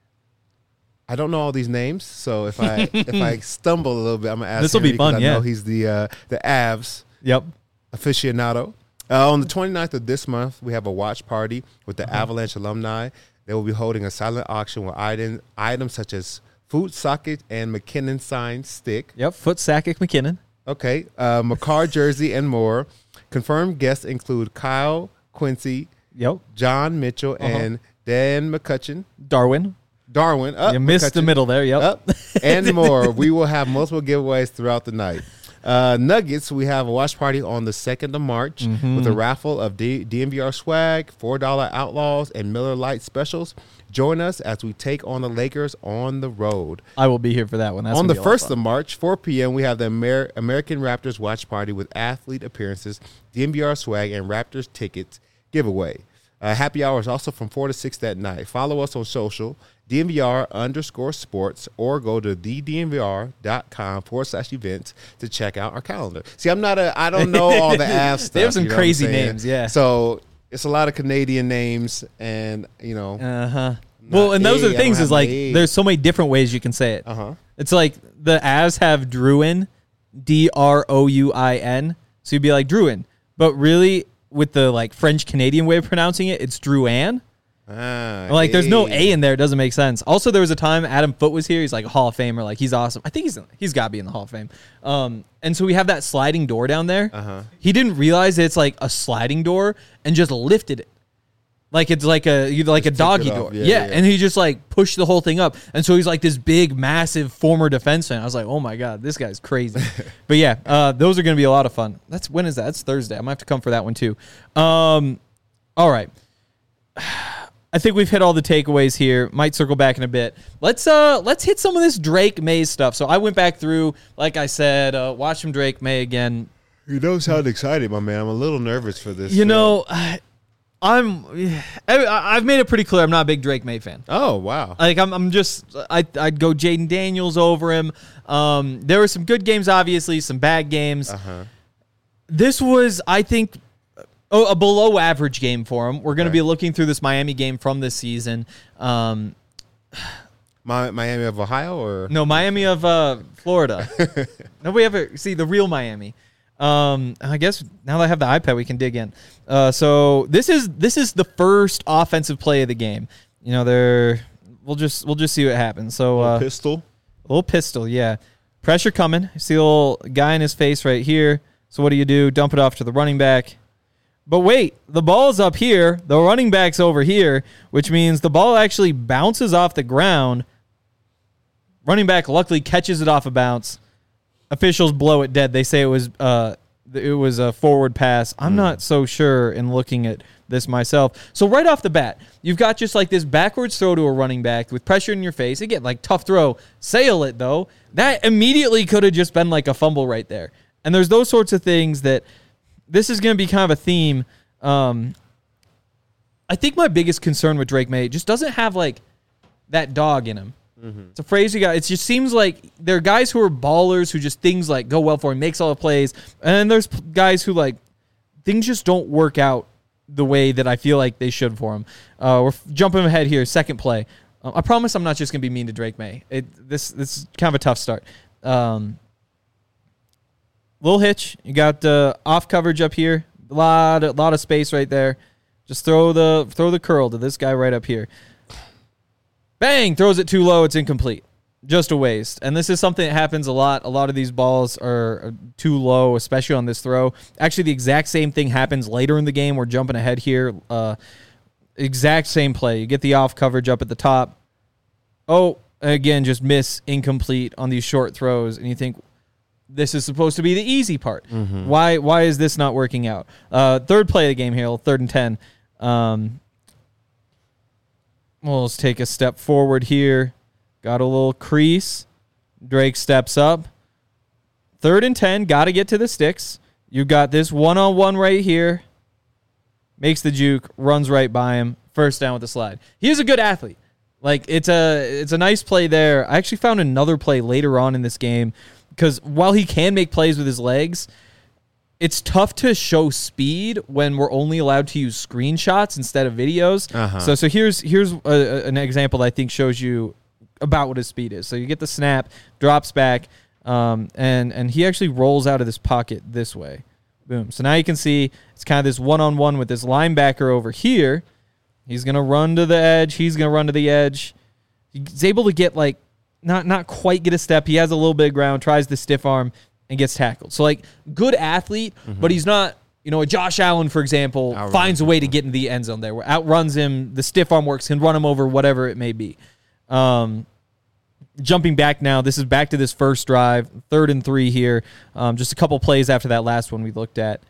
I don't know all these names, so if I if I stumble a little bit, I'm gonna ask. This will be fun. I yeah, know he's the uh, the Avs. Yep. Aficionado. Uh, on the twenty-ninth of this month, we have a watch party with the Mm-hmm. Avalanche alumni. They will be holding a silent auction with item, items such as Food Socket and McKinnon signed stick. Yep. Foot Sakic McKinnon. Okay. Uh, McCarr jersey and more. Confirmed guests include Kyle Quincy, Yep. John Mitchell, Uh-huh. and Dan McCutcheon. Darwin. Darwin. Up, You missed the McCutcheon. middle there. Yep. Up, and more. We will have multiple giveaways throughout the night. Uh, Nuggets, we have a watch party on the second of March Mm-hmm. with a raffle of D- DNVR swag, four dollar Outlaws, and Miller Lite specials. Join us as we take on the Lakers on the road. I will be here for that one. That's on gonna the be a lot of first fun. of March, four p.m., we have the Amer- American Raptors watch party with athlete appearances, D N V R swag, and Raptors tickets giveaway. Uh, happy hour is also from four to six that night. Follow us on social, D N V R underscore sports, or go to the D N V R dot com forward slash events to check out our calendar. See, I'm not a, I don't know all the Avs stuff. They have some you know what I'm crazy saying? names, yeah. So it's a lot of Canadian names, and, you know. Uh huh. Well, and those A, are the I things don't is have like, my A. there's so many different ways you can say it. Uh huh. It's like the Avs have Druin, D R O U I N. So you'd be like Druin. But really, with the like French Canadian way of pronouncing it, it's Drouin. Ah, Like there's no A. A in there. It doesn't make sense. Also, there was a time Adam Foote was here. He's like a Hall of Famer. Like he's awesome. I think he's he's got to be in the Hall of Fame. Um, and so we have that sliding door down there. Uh-huh. He didn't realize that it's like a sliding door and just lifted it. Like it's like a you like Just a doggy tipped it door. off. Yeah, Yeah, yeah, yeah. and he just like pushed the whole thing up. And so he's like this big, massive former defenseman. I was like, oh my God, this guy's crazy. But yeah, uh, those are going to be a lot of fun. That's when is that? That's Thursday. I might have to come for that one too. Um, all right. I think we've hit all the takeaways here. Might circle back in a bit. Let's uh let's hit some of this Drake May stuff. So I went back through, like I said, uh, watch some Drake May again. You don't sound excited, my man. I'm a little nervous for this. You uh, know, I, I'm I, I've made it pretty clear I'm not a big Drake May fan. Oh wow. Like I'm I'm just I I'd go Jaden Daniels over him. Um, there were some good games, obviously, some bad games. Uh-huh. This was, I think, a, a below average game for him. We're going to Right. be looking through this Miami game from this season. Um, My, Miami of Ohio or no, Miami of uh, Florida. Nobody ever see the real Miami. Um, I guess now that I have the iPad, we can dig in. Uh, so this is this is the first offensive play of the game. You know, they're we'll just we'll just see what happens. So uh, pistol? little pistol, yeah. Pressure coming. You see a little guy in his face right here. So what do you do? Dump it off to the running back. But wait, the ball's up here. The running back's over here, which means the ball actually bounces off the ground. Running back luckily catches it off a bounce. Officials blow it dead. They say it was uh, it was a forward pass. I'm not so sure in looking at this myself. So right off the bat, you've got just like this backwards throw to a running back with pressure in your face. Again, like tough throw. Sail it, though. That immediately could have just been like a fumble right there. And there's those sorts of things that this is going to be kind of a theme. Um, I think my biggest concern with Drake May just doesn't have like that dog in him. Mm-hmm. It's a phrase you got. It just seems like there are guys who are ballers who just things like go well for him, makes all the plays. And then there's p- guys who like things just don't work out the way that I feel like they should for him. Uh, we're f- jumping ahead here. Second play. Uh, I promise I'm not just going to be mean to Drake May. It, this, this is kind of a tough start. Um, little hitch. You got uh, off coverage up here. A lot, a lot of space right there. Just throw the throw the curl to this guy right up here. Bang! Throws it too low. It's incomplete. Just a waste. And this is something that happens a lot. A lot of these balls are too low, especially on this throw. Actually, the exact same thing happens later in the game. We're jumping ahead here. Uh, exact same play. You get the off coverage up at the top. Oh, again, just miss, incomplete on these short throws. And you think, this is supposed to be the easy part. Mm-hmm. Why Why is this not working out? Uh, third play of the game here, third and ten. Um, well, let's take a step forward here. Got a little crease. Drake steps up. Third and ten, got to get to the sticks. You got this one-on-one right here. Makes the juke, runs right by him. First down with the slide. He is a good athlete. Like, it's a it's a nice play there. I actually found another play later on in this game because while he can make plays with his legs, it's tough to show speed when we're only allowed to use screenshots instead of videos. Uh-huh. So so here's here's a, a, an example that I think shows you about what his speed is. So you get the snap, drops back, um, and and he actually rolls out of this pocket this way. Boom. So now you can see it's kind of this one-on-one with this linebacker over here. He's going to run to the edge. He's going to run to the edge. He's able to get like not not quite get a step. He has a little bit of ground, tries the stiff arm, and gets tackled. So, like, good athlete, mm-hmm. but he's not, you know, a Josh Allen, for example, Outrun. finds a way to get in the end zone there, where outruns him, the stiff arm works, can run him over, whatever it may be. Um, jumping back now, this is back to this first drive, third and three here. Um, just a couple plays after that last one we looked at.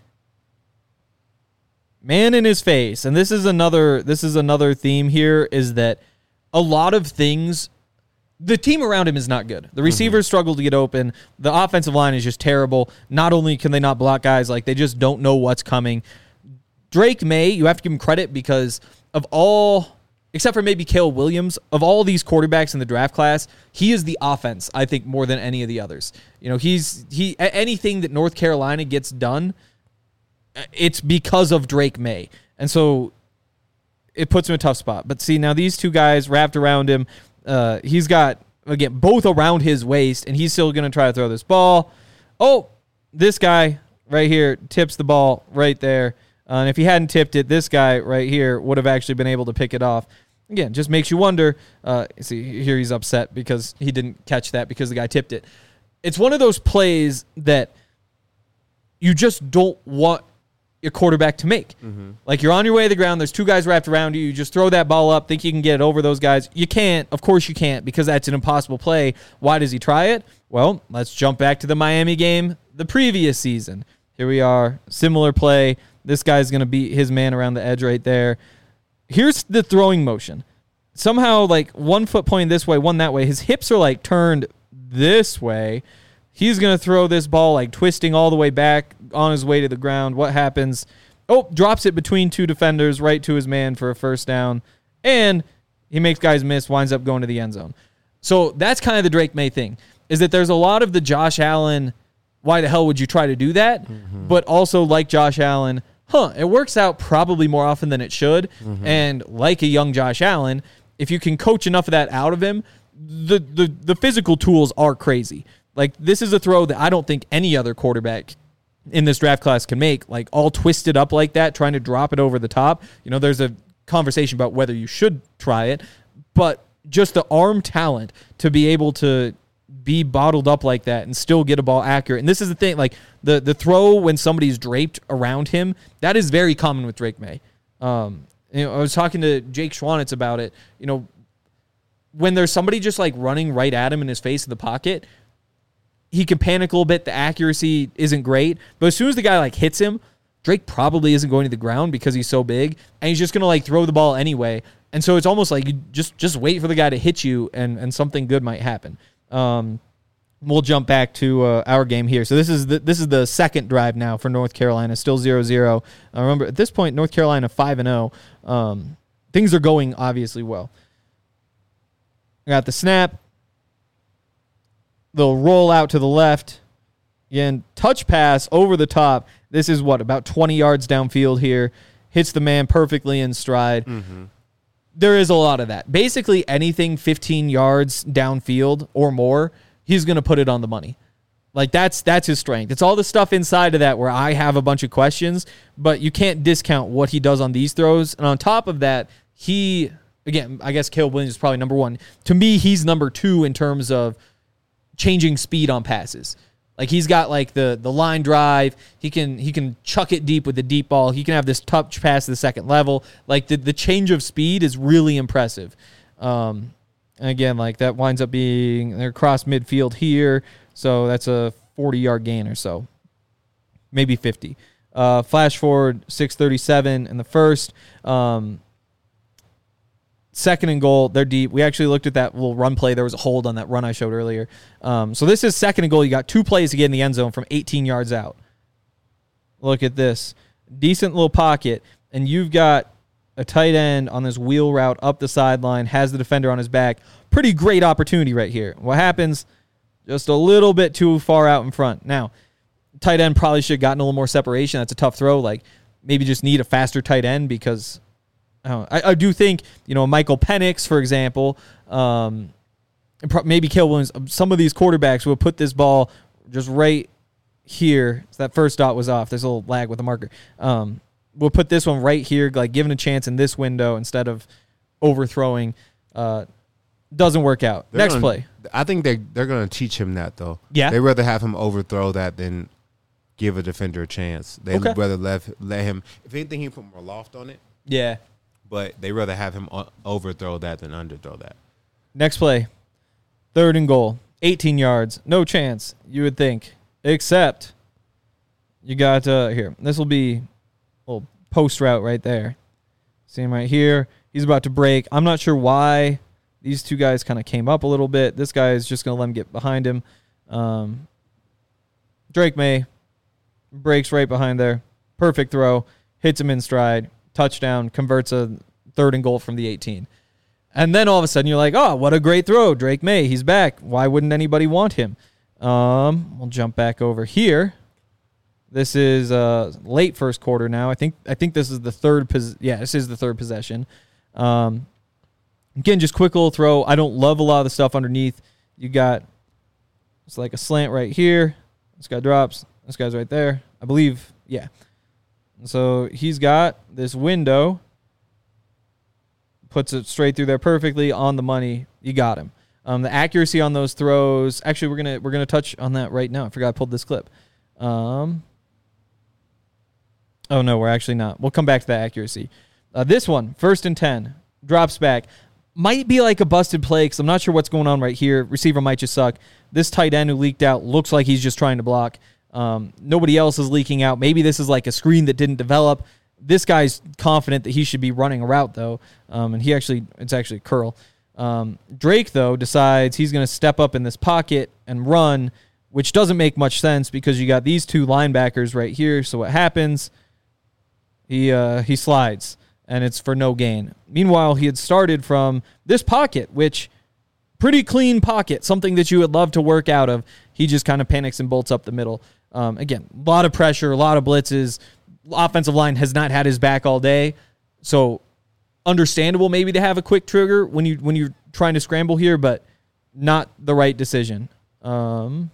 Man in his face, and this is another this is another theme here, is that a lot of things, the team around him is not good. The receivers mm-hmm. struggle to get open. The offensive line is just terrible. Not only can they not block guys, like they just don't know what's coming. Drake May, you have to give him credit because of all, except for maybe Caleb Williams, of all these quarterbacks in the draft class, he is the offense, I think, more than any of the others. You know, he's he anything that North Carolina gets done, it's because of Drake May. And so it puts him in a tough spot. But see, now these two guys wrapped around him, uh, he's got, again, both around his waist, and he's still going to try to throw this ball. Oh, this guy right here tips the ball right there. Uh, and if he hadn't tipped it, this guy right here would have actually been able to pick it off. Again, just makes you wonder. Uh, see, here he's upset because he didn't catch that because the guy tipped it. It's one of those plays that you just don't want a quarterback to make. Mm-hmm. Like, you're on your way to the ground. There's two guys wrapped around you. You just throw that ball up, think you can get it over those guys. You can't. Of course you can't, because that's an impossible play. Why does he try it? Well, let's jump back to the Miami game the previous season. Here we are. Similar play. This guy's going to beat his man around the edge right there. Here's the throwing motion. Somehow, like, one foot pointing this way, one that way. His hips are, like, turned this way. He's going to throw this ball, like, twisting all the way back on his way to the ground. What happens? Oh, drops it between two defenders right to his man for a first down. And he makes guys miss, winds up going to the end zone. So that's kind of the Drake May thing, is that there's a lot of the Josh Allen, why the hell would you try to do that? Mm-hmm. But also, like Josh Allen, huh, it works out probably more often than it should. Mm-hmm. And like a young Josh Allen, if you can coach enough of that out of him, the the the physical tools are crazy. Like, this is a throw that I don't think any other quarterback in this draft class can make, like, all twisted up like that, trying to drop it over the top. You know, there's a conversation about whether you should try it, but just the arm talent to be able to be bottled up like that and still get a ball accurate. And this is the thing, like, the, the throw when somebody's draped around him, that is very common with Drake May. Um, you know, I was talking to Jake Schwanitz about it. You know, when there's somebody just, like, running right at him in his face in the pocket, he can panic a little bit. The accuracy isn't great. But as soon as the guy, like, hits him, Drake probably isn't going to the ground because he's so big, and he's just going to, like, throw the ball anyway. And so it's almost like you just, just wait for the guy to hit you, and, and something good might happen. Um, we'll jump back to uh, our game here. So this is the, this is the second drive now for North Carolina, still zero zero. Uh, remember, at this point, North Carolina five and oh. Um, things are going obviously well. Got the snap. They'll roll out to the left. Again, touch pass over the top. This is what, about twenty yards downfield here. Hits the man perfectly in stride. Mm-hmm. There is a lot of that. Basically anything fifteen yards downfield or more, he's going to put it on the money. Like, that's that's his strength. It's all the stuff inside of that where I have a bunch of questions, but you can't discount what he does on these throws. And on top of that, he, again, I guess Caleb Williams is probably number one. To me, he's number two in terms of changing speed on passes. Like, he's got, like, the the line drive. He can he can chuck it deep with the deep ball. He can have this touch pass to the second level. Like, the, the change of speed is really impressive. Um, and again, like, that winds up being, they're across midfield here, so that's a forty-yard gain or so. Maybe fifty. Uh, flash forward, six thirty-seven in the first. Um, Second and goal, they're deep. We actually looked at that little run play. There was a hold on that run I showed earlier. Um, so this is second and goal. You got two plays to get in the end zone from eighteen yards out. Look at this. Decent little pocket, and you've got a tight end on this wheel route up the sideline, has the defender on his back. Pretty great opportunity right here. What happens? Just a little bit too far out in front. Now, tight end probably should have gotten a little more separation. That's a tough throw. Like, maybe just need a faster tight end because I, I do think, you know, Michael Penix, for example, um, maybe Caleb Williams, some of these quarterbacks will put this ball just right here. So that first dot was off. There's a little lag with the marker. Um, we'll put this one right here, like given a chance in this window instead of overthrowing. Uh, doesn't work out. They're Next gonna, play. I think they they're going to teach him that, though. Yeah. They'd rather have him overthrow that than give a defender a chance. They'd Okay. rather let, let him, if anything, he put more loft on it. Yeah. But they rather have him overthrow that than underthrow that. Next play. Third and goal. eighteen yards. No chance, you would think. Except you got, uh, here, this will be a little post route right there. See him right here. He's about to break. I'm not sure why these two guys kind of came up a little bit. This guy is just going to let him get behind him. Um, Drake May breaks right behind there. Perfect throw. Hits him in stride. Touchdown, converts a third and goal from the eighteen. And then all of a sudden you're like, oh, what a great throw. Drake May, he's back. Why wouldn't anybody want him? Um, we'll jump back over here. This is uh, late first quarter now. I think I think this is the third pos- yeah, this is the third possession. Um, again, just quick little throw. I don't love a lot of the stuff underneath. You got, it's like a slant right here. This guy drops. This guy's right there. I believe, yeah. So he's got this window, puts it straight through there perfectly on the money. You got him. Um, the accuracy on those throws. Actually, we're gonna we're gonna touch on that right now. I forgot I pulled this clip. Um, Oh, no, we're actually not. We'll come back to that accuracy. Uh, this one, first and ten, drops back. Might be like a busted play because I'm not sure what's going on right here. Receiver might just suck. This tight end who leaked out looks like he's just trying to block. Um, nobody else is leaking out. Maybe this is like a screen that didn't develop. This guy's confident that he should be running a route, though, um, and he actually, it's actually a curl. Um, Drake, though, decides he's going to step up in this pocket and run, which doesn't make much sense because you got these two linebackers right here. So what happens? He uh, he slides, and it's for no gain. Meanwhile, he had started from this pocket, which pretty clean pocket, something that you would love to work out of. He just kind of panics and bolts up the middle. Um, again, a lot of pressure, a lot of blitzes. Offensive line has not had his back all day, so understandable maybe to have a quick trigger when you when you're trying to scramble here, but not the right decision. Um,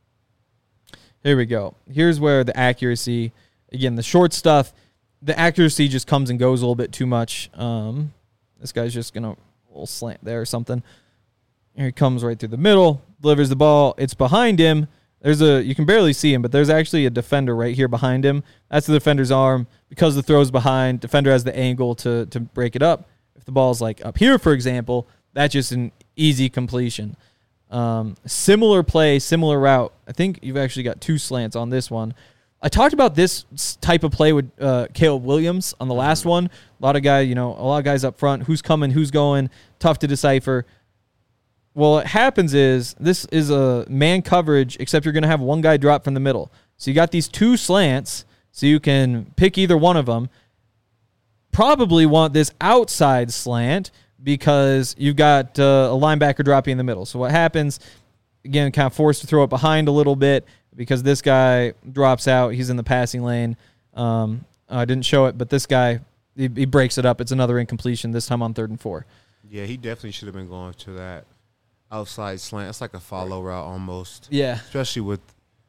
here we go. Here's where the accuracy, again, the short stuff, the accuracy just comes and goes a little bit too much. Um, this guy's just gonna a little slant there or something. Here he comes right through the middle, delivers the ball. It's behind him. There's a you can barely see him, but there's actually a defender right here behind him. That's the defender's arm. Because the throw's behind, defender has the angle to to break it up. If the ball's like up here, for example, that's just an easy completion. Um, similar play, similar route. I think you've actually got two slants on this one. I talked about this type of play with uh, Caleb Williams on the last one. A lot of guys, you know, a lot of guys up front. Who's coming? Who's going? Tough to decipher. Well, what happens is this is a man coverage, except you're going to have one guy drop from the middle. So you got these two slants, so you can pick either one of them. Probably want this outside slant because you've got uh, a linebacker dropping in the middle. So what happens, again, kind of forced to throw it behind a little bit because this guy drops out. He's in the passing lane. Um, I didn't show it, but this guy, he, he breaks it up. It's another incompletion, this time on third and four. Yeah, he definitely should have been going to that outside slant. It's like a follow route almost. Yeah. Especially with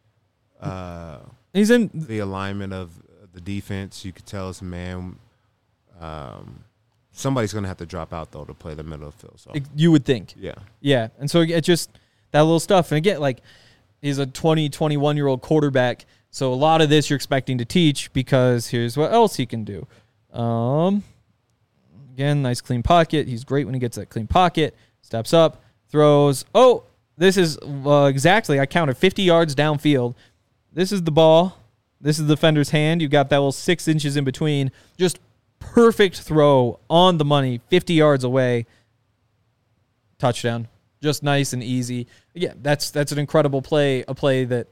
uh, He's in the alignment of the defense. You could tell it's a man. Um, somebody's going to have to drop out, though, to play the middle of the field. So. You would think. Yeah. Yeah. And so it just that little stuff. And again, like he's a twenty, twenty-one-year-old quarterback. So a lot of this you're expecting to teach because here's what else he can do. Um, again, nice clean pocket. He's great when he gets that clean pocket. Steps up. Throws. Oh, this is uh, exactly, I counted fifty yards downfield. This is the ball. This is the defender's hand. You've got that little six inches in between. Just perfect throw on the money, fifty yards away. Touchdown. Just nice and easy. Yeah, that's that's an incredible play, a play that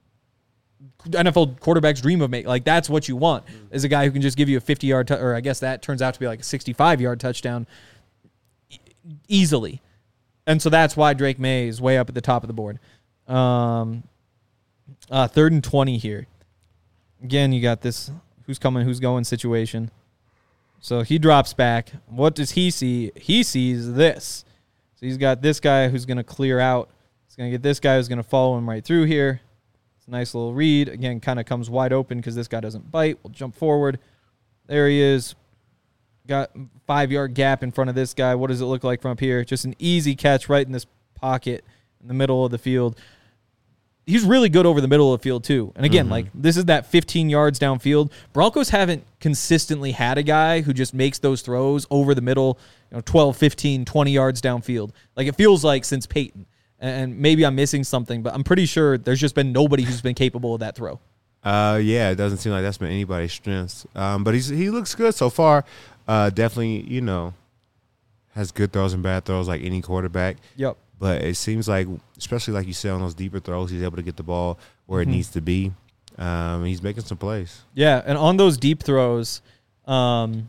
N F L quarterbacks dream of making. Like, that's what you want, is a guy who can just give you a fifty-yard, t- or I guess that turns out to be like a sixty-five-yard touchdown e- easily. And so that's why Drake May is way up at the top of the board. Um, uh, third and twenty here. Again, you got this who's coming, who's going situation. So he drops back. What does he see? He sees this. So he's got this guy who's going to clear out. He's going to get this guy who's going to follow him right through here. It's a nice little read. Again, kind of comes wide open because this guy doesn't bite. We'll jump forward. There he is. Got five-yard gap in front of this guy. What does it look like from up here? Just an easy catch right in this pocket in the middle of the field. He's really good over the middle of the field, too. And again, mm-hmm. like, this is that fifteen yards downfield. Broncos haven't consistently had a guy who just makes those throws over the middle, you know, twelve, fifteen, twenty yards downfield. Like, it feels like since Peyton. And maybe I'm missing something, but I'm pretty sure there's just been nobody who's been capable of that throw. Uh, yeah, it doesn't seem like that's been anybody's strengths. Um, but he's he looks good so far. Uh, definitely, you know, has good throws and bad throws like any quarterback. Yep. But it seems like, especially like you said, on those deeper throws, he's able to get the ball where mm-hmm. it needs to be. Um, he's making some plays. Yeah, and on those deep throws, um,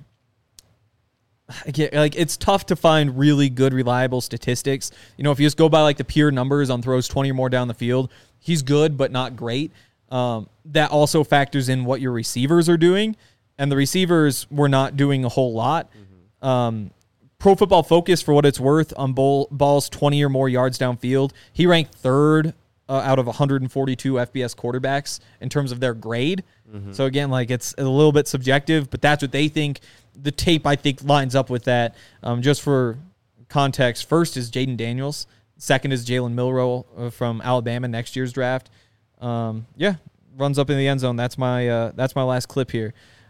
again, like it's tough to find really good, reliable statistics. You know, if you just go by like the pure numbers on throws twenty or more down the field, he's good but not great. Um, that also factors in what your receivers are doing. And the receivers were not doing a whole lot. Mm-hmm. Um, Pro Football Focus, for what it's worth, on ball, balls twenty or more yards downfield, he ranked third uh, out of one hundred forty-two F B S quarterbacks in terms of their grade. Mm-hmm. So, again, like it's a little bit subjective, but that's what they think. The tape, I think, lines up with that. Um, just for context, first is Jaden Daniels. Second is Jalen Milroe uh, from Alabama, next year's draft. Um, yeah, runs up in the end zone. That's my uh, that's my last clip here.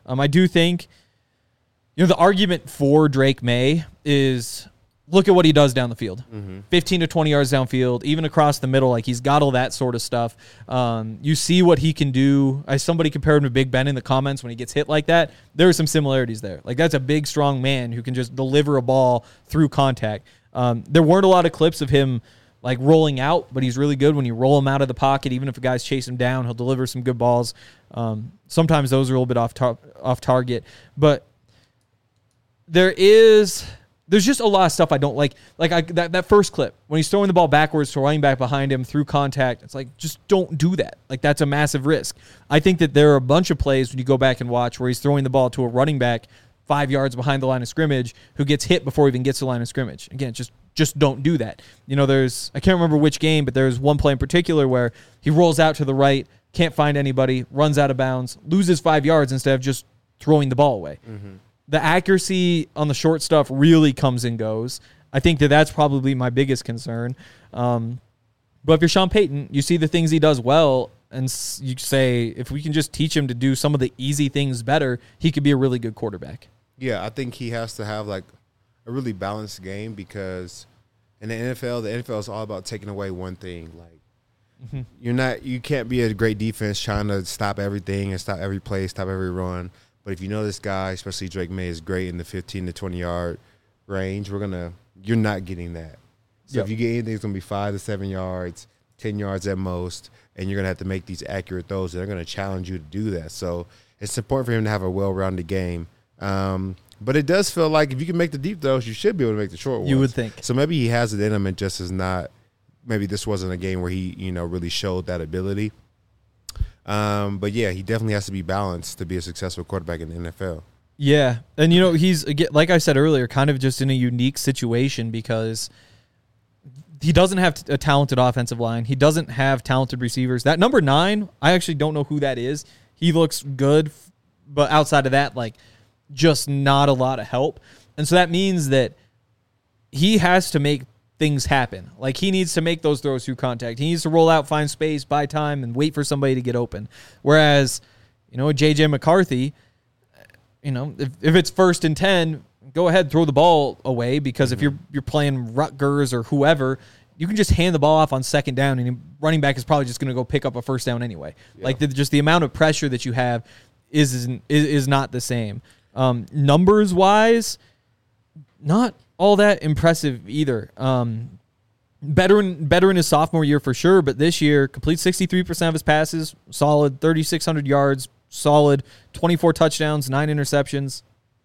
Um, I do think, you know, the argument for Drake May is look at what he does down the field. Mm-hmm. fifteen to twenty yards downfield, even across the middle. Like, he's got all that sort of stuff. Um, you see what he can do. As somebody compared him to Big Ben in the comments when he gets hit like that. There are some similarities there. Like, that's a big, strong man who can just deliver a ball through contact. Um, there weren't a lot of clips of him like rolling out, but he's really good when you roll him out of the pocket. Even if a guy's chase him down, he'll deliver some good balls. Um, sometimes those are a little bit off tar- off target, but there is there's just a lot of stuff I don't like. Like I, that that first clip when he's throwing the ball backwards to running back behind him through contact. It's like, just don't do that. Like, that's a massive risk. I think that there are a bunch of plays when you go back and watch where he's throwing the ball to a running back five yards behind the line of scrimmage who gets hit before he even gets to the line of scrimmage. Again, just just don't do that. You know, there's, I can't remember which game, but there's one play in particular where he rolls out to the right, can't find anybody, runs out of bounds, loses five yards instead of just throwing the ball away. Mm-hmm. The accuracy on the short stuff really comes and goes. I think that that's probably my biggest concern. Um, but if you're Sean Payton, you see the things he does well, and you say, if we can just teach him to do some of the easy things better, he could be a really good quarterback. Yeah, I think he has to have like a really balanced game, because in the N F L, the N F L is all about taking away one thing. Like, mm-hmm. you're not, you can't be a great defense trying to stop everything and stop every play, stop every run. But if you know this guy, especially Drake May, is great in the fifteen to twenty yard range, we're gonna, you're not getting that. So yep. if you get anything, it's gonna be five to seven yards, ten yards at most, and you're gonna have to make these accurate throws. They're gonna challenge you to do that. So it's important for him to have a well-rounded game. Um, but it does feel like if you can make the deep throws, you should be able to make the short ones. You would think. So maybe he has it in him, and just is not. Maybe this wasn't a game where he, you know, really showed that ability. Um, but yeah, he definitely has to be balanced to be a successful quarterback in the N F L. Yeah, and you know, he's, again, like I said earlier, kind of just in a unique situation because he doesn't have a talented offensive line. He doesn't have talented receivers. That number nine, I actually don't know who that is. He looks good, but outside of that, like, just not a lot of help. And so that means that he has to make things happen. Like, he needs to make those throws through contact. He needs to roll out, find space, buy time, and wait for somebody to get open. Whereas, you know, J J McCarthy, you know, if, if it's first and ten, go ahead, throw the ball away, because mm-hmm. if you're you're playing Rutgers or whoever, you can just hand the ball off on second down, and running back is probably just going to go pick up a first down anyway. Yeah. Like, the, just the amount of pressure that you have is is, is not the same. Um, numbers-wise, not all that impressive either. Um, better in, better in his sophomore year for sure, but this year, complete sixty-three percent of his passes, solid, thirty-six hundred yards, solid, twenty-four touchdowns, nine interceptions.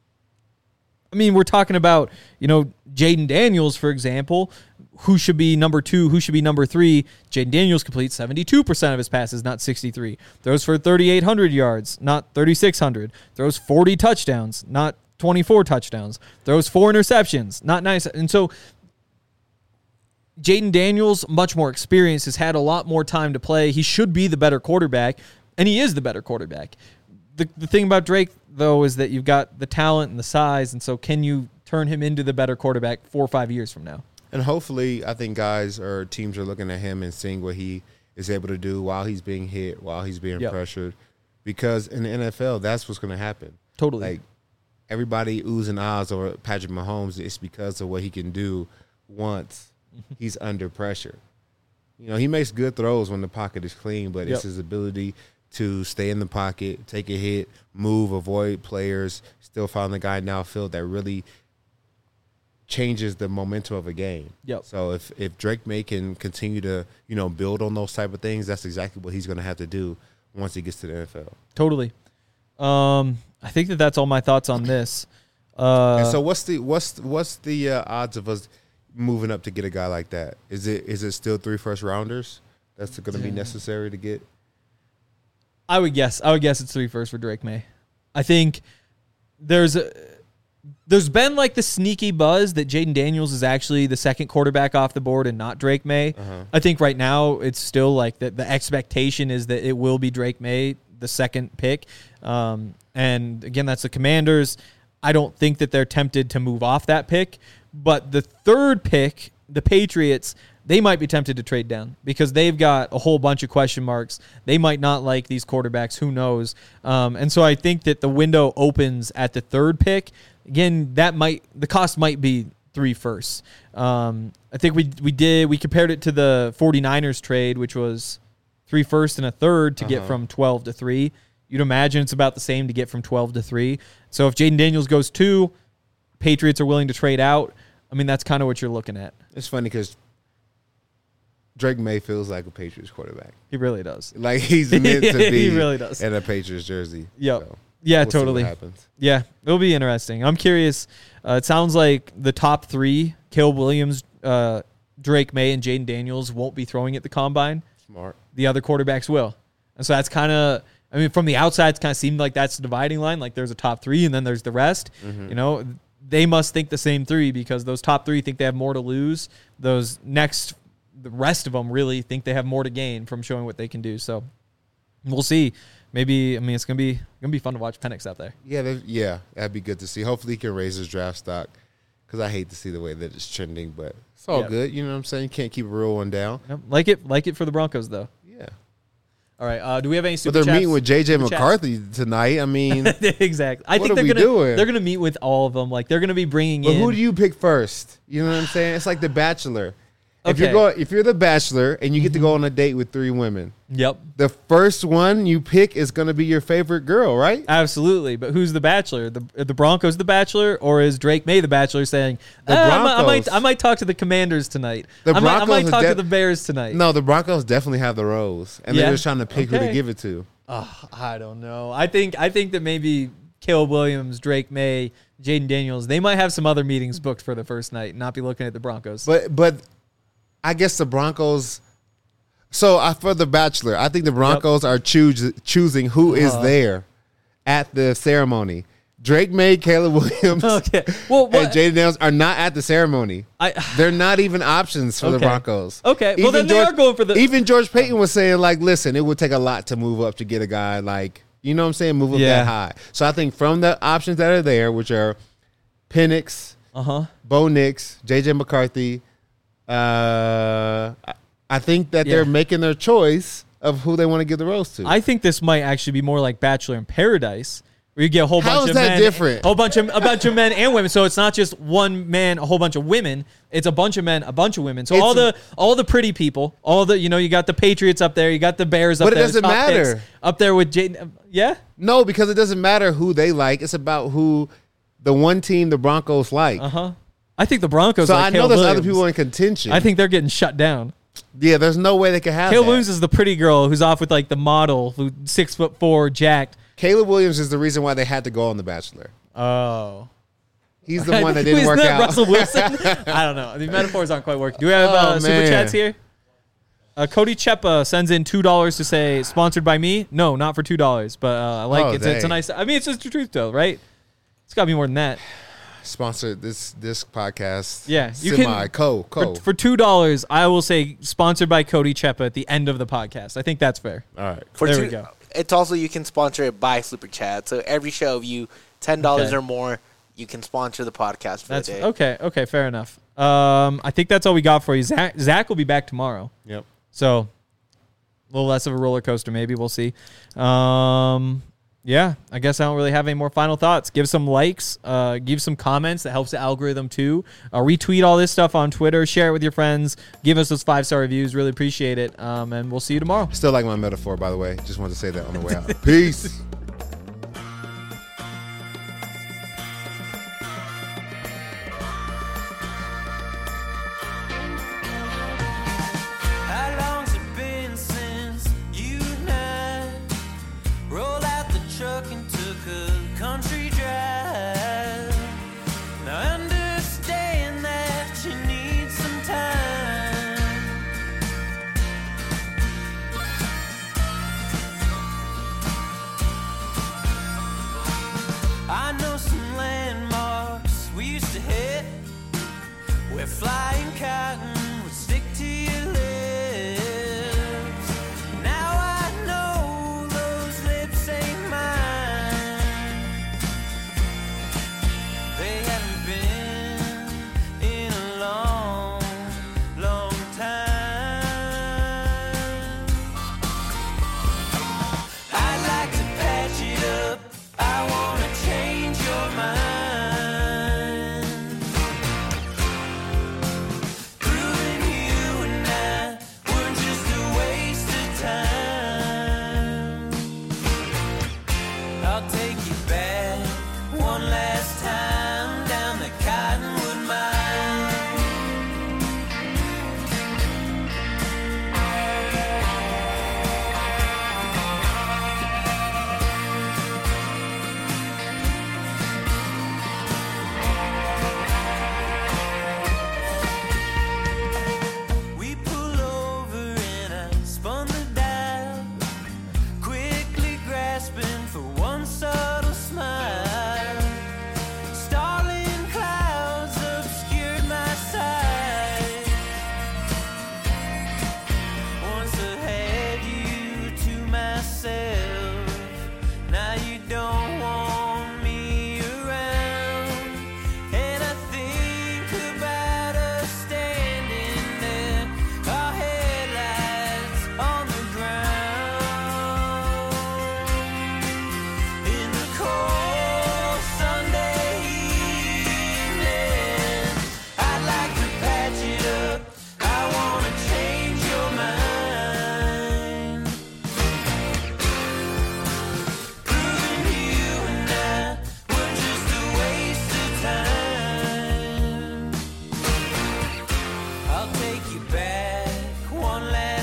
I mean, we're talking about, you know, Jaden Daniels, for example, who should be number two, who should be number three. Jaden Daniels completes seventy-two percent of his passes, not sixty-three. Throws for thirty-eight hundred yards, not thirty-six hundred. Throws forty touchdowns, not twenty-four touchdowns. Throws four interceptions, not nice. And so Jaden Daniels, much more experienced, has had a lot more time to play. He should be the better quarterback, and he is the better quarterback. The, the thing about Drake, though, is that you've got the talent and the size, and so can you turn him into the better quarterback four or five years from now? And hopefully, I think guys or teams are looking at him and seeing what he is able to do while he's being hit, while he's being yep. pressured. Because in the N F L, that's what's going to happen. Totally. Like, everybody oohs and ahs over Patrick Mahomes. It's because of what he can do once he's under pressure. You know, he makes good throws when the pocket is clean, but yep. it's his ability to stay in the pocket, take a hit, move, avoid players, still find the guy downfield that really changes the momentum of a game. Yep. So if, if Drake May can continue to, you know, build on those type of things, that's exactly what he's going to have to do once he gets to the N F L. Totally. Um, I think that that's all my thoughts on this. Uh, and so what's the what's what's the uh, odds of us moving up to get a guy like that? Is it is it still three first rounders that's going to be necessary to get? I would guess. I would guess it's three first for Drake May. I think there's a, there's been like the sneaky buzz that Jaden Daniels is actually the second quarterback off the board and not Drake May. Uh-huh. I think right now it's still like the, the expectation is that it will be Drake May, the second pick. Um, and again, that's the Commanders. I don't think that they're tempted to move off that pick. But the third pick, the Patriots, they might be tempted to trade down because they've got a whole bunch of question marks. They might not like these quarterbacks. Who knows? Um, and so I think that the window opens at the third pick. Again, that might the cost might be three firsts. Um, I think we we did we compared it to the 49ers trade, which was three firsts and a third to uh-huh. get from twelve to three. You'd imagine it's about the same to get from twelve to three. So if Jaden Daniels goes two, Patriots are willing to trade out. I mean, that's kind of what you're looking at. It's funny because Drake May feels like a Patriots quarterback. He really does. Like he's meant to be he really does. in a Patriots jersey. Yep. So yeah, we'll totally. See what happens. Yeah, it'll be interesting. I'm curious. Uh, it sounds like the top three, Caleb Williams, uh, Drake May, and Jaden Daniels, won't be throwing at the combine. Smart. The other quarterbacks will. And so that's kind of, I mean, from the outside, it kind of seemed like that's the dividing line. Like there's a top three and then there's the rest. Mm-hmm. You know, they must think the same three because those top three think they have more to lose. Those next, the rest of them really think they have more to gain from showing what they can do. So we'll see. Maybe, I mean, it's going to be gonna be fun to watch Penix out there. Yeah, yeah, that'd be good to see. Hopefully he can raise his draft stock because I hate to see the way that it's trending, but it's all yep. good. You know what I'm saying? You can't keep a real one down. Yep. Like it like it for the Broncos, though. Yeah. All right. Uh, do we have any super But they're chats? meeting with J J Super McCarthy chats? tonight. I mean, exactly. I what think are they're we gonna doing? they're gonna meet with all of them. Like they're gonna be bringing but in. who do you pick first? You know what I'm saying? It's like The Bachelor. If Okay. you're going, if you're the Bachelor and you get to go on a date with three women, Yep. the first one you pick is going to be your favorite girl, right? Absolutely. But who's the Bachelor? The are the Broncos the Bachelor, or is Drake May the Bachelor saying, The "Ah, I might- I might Broncos. I might talk to the Commanders tonight. The I might, I Broncos might is talk to def- the Bears tonight." No, the Broncos definitely have the rose, and Yeah? they're just trying to pick who Okay. to give it to. Oh, I don't know. I think I think that maybe Caleb Williams, Drake May, Jaden Daniels, they might have some other meetings booked for the first night, and not be looking at the Broncos. But but I guess the Broncos. So I, for the Bachelor, I think the Broncos yep. are choos- choosing who is Uh-huh. there at the ceremony. Drake May, Caleb Williams, Okay. Well, and what, Jaden Daniels are not at the ceremony. I They're not even options for the Okay. Broncos. Okay. Well, then they are going for the- Even George Payton was saying, like, listen, it would take a lot to move up to get a guy like, you know what I'm saying, move up Yeah. that high. So I think from the options that are there, which are Penix, uh huh. Bo Nix, J J McCarthy, uh, I- I think that Yeah. they're making their choice of who they want to give the rose to. I think this might actually be more like Bachelor in Paradise, where you get a whole How bunch is of that men, different? a whole bunch of a bunch of men and women. So it's not just one man, a whole bunch of women. It's a bunch of men, a bunch of women. So It's- all the all the pretty people, all the you know, you got the Patriots up there, you got the Bears up But it there, doesn't the top matter. picks up there with Jaden. Yeah, no, because it doesn't matter who they like. It's about who the one team the Broncos like. uh huh. I think the Broncos. so like I know Caleb there's Williams. other people in contention. I think they're getting shut down. yeah, there's no way they can have Caleb that. Williams is the pretty girl who's off with like the model, who six foot four, jacked. Caleb Williams is the reason why they had to go on The Bachelor. Oh. He's the one that didn't Isn't work that out. Russell Wilson? I don't know. The metaphors aren't quite working. Do we have uh, Oh, super man. chats here? Uh, Cody Chepa sends in two dollars to say sponsored by me. No, not for two dollars, but uh, I like Oh, it. It's, a- it's a dang. nice. I mean, it's just the truth, though, right? It's got to be more than that. Sponsored this this podcast. Yeah, you semi can- co co. For, for two dollars, I will say sponsored by Cody Chepa at the end of the podcast. I think that's fair. All right. For There two, we go. It's also you can sponsor it by Super Chat. So every show of you ten dollars Okay. or more, you can sponsor the podcast for That's the day. okay. Okay, fair enough. Um, I think that's all we got for you. Zach, Zach will be back tomorrow. Yep. So, a little less of a roller coaster, maybe. We'll see. Um, yeah, I guess I don't really have any more final thoughts. Give some likes. Uh, give some comments. That helps the algorithm, too. Uh, retweet all this stuff on Twitter. Share it with your friends. Give us those five-star reviews. Really appreciate it. Um, and we'll see you tomorrow. Still like my metaphor, by the way. Just wanted to say that on the way out. Peace. How long's it been since you and I rolled out the truck and took a country drive? Now I understand that you need some time. I know some landmarks we used to hit where flying cotton would stick to your lips. Now I know those lips ain't mine. They haven't been in a long, long time.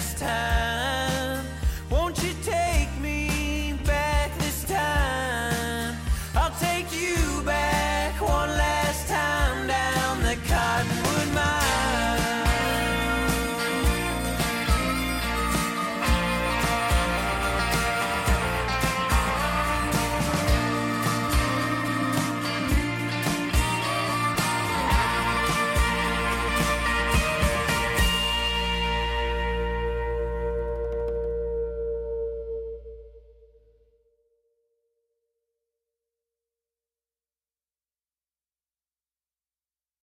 this time.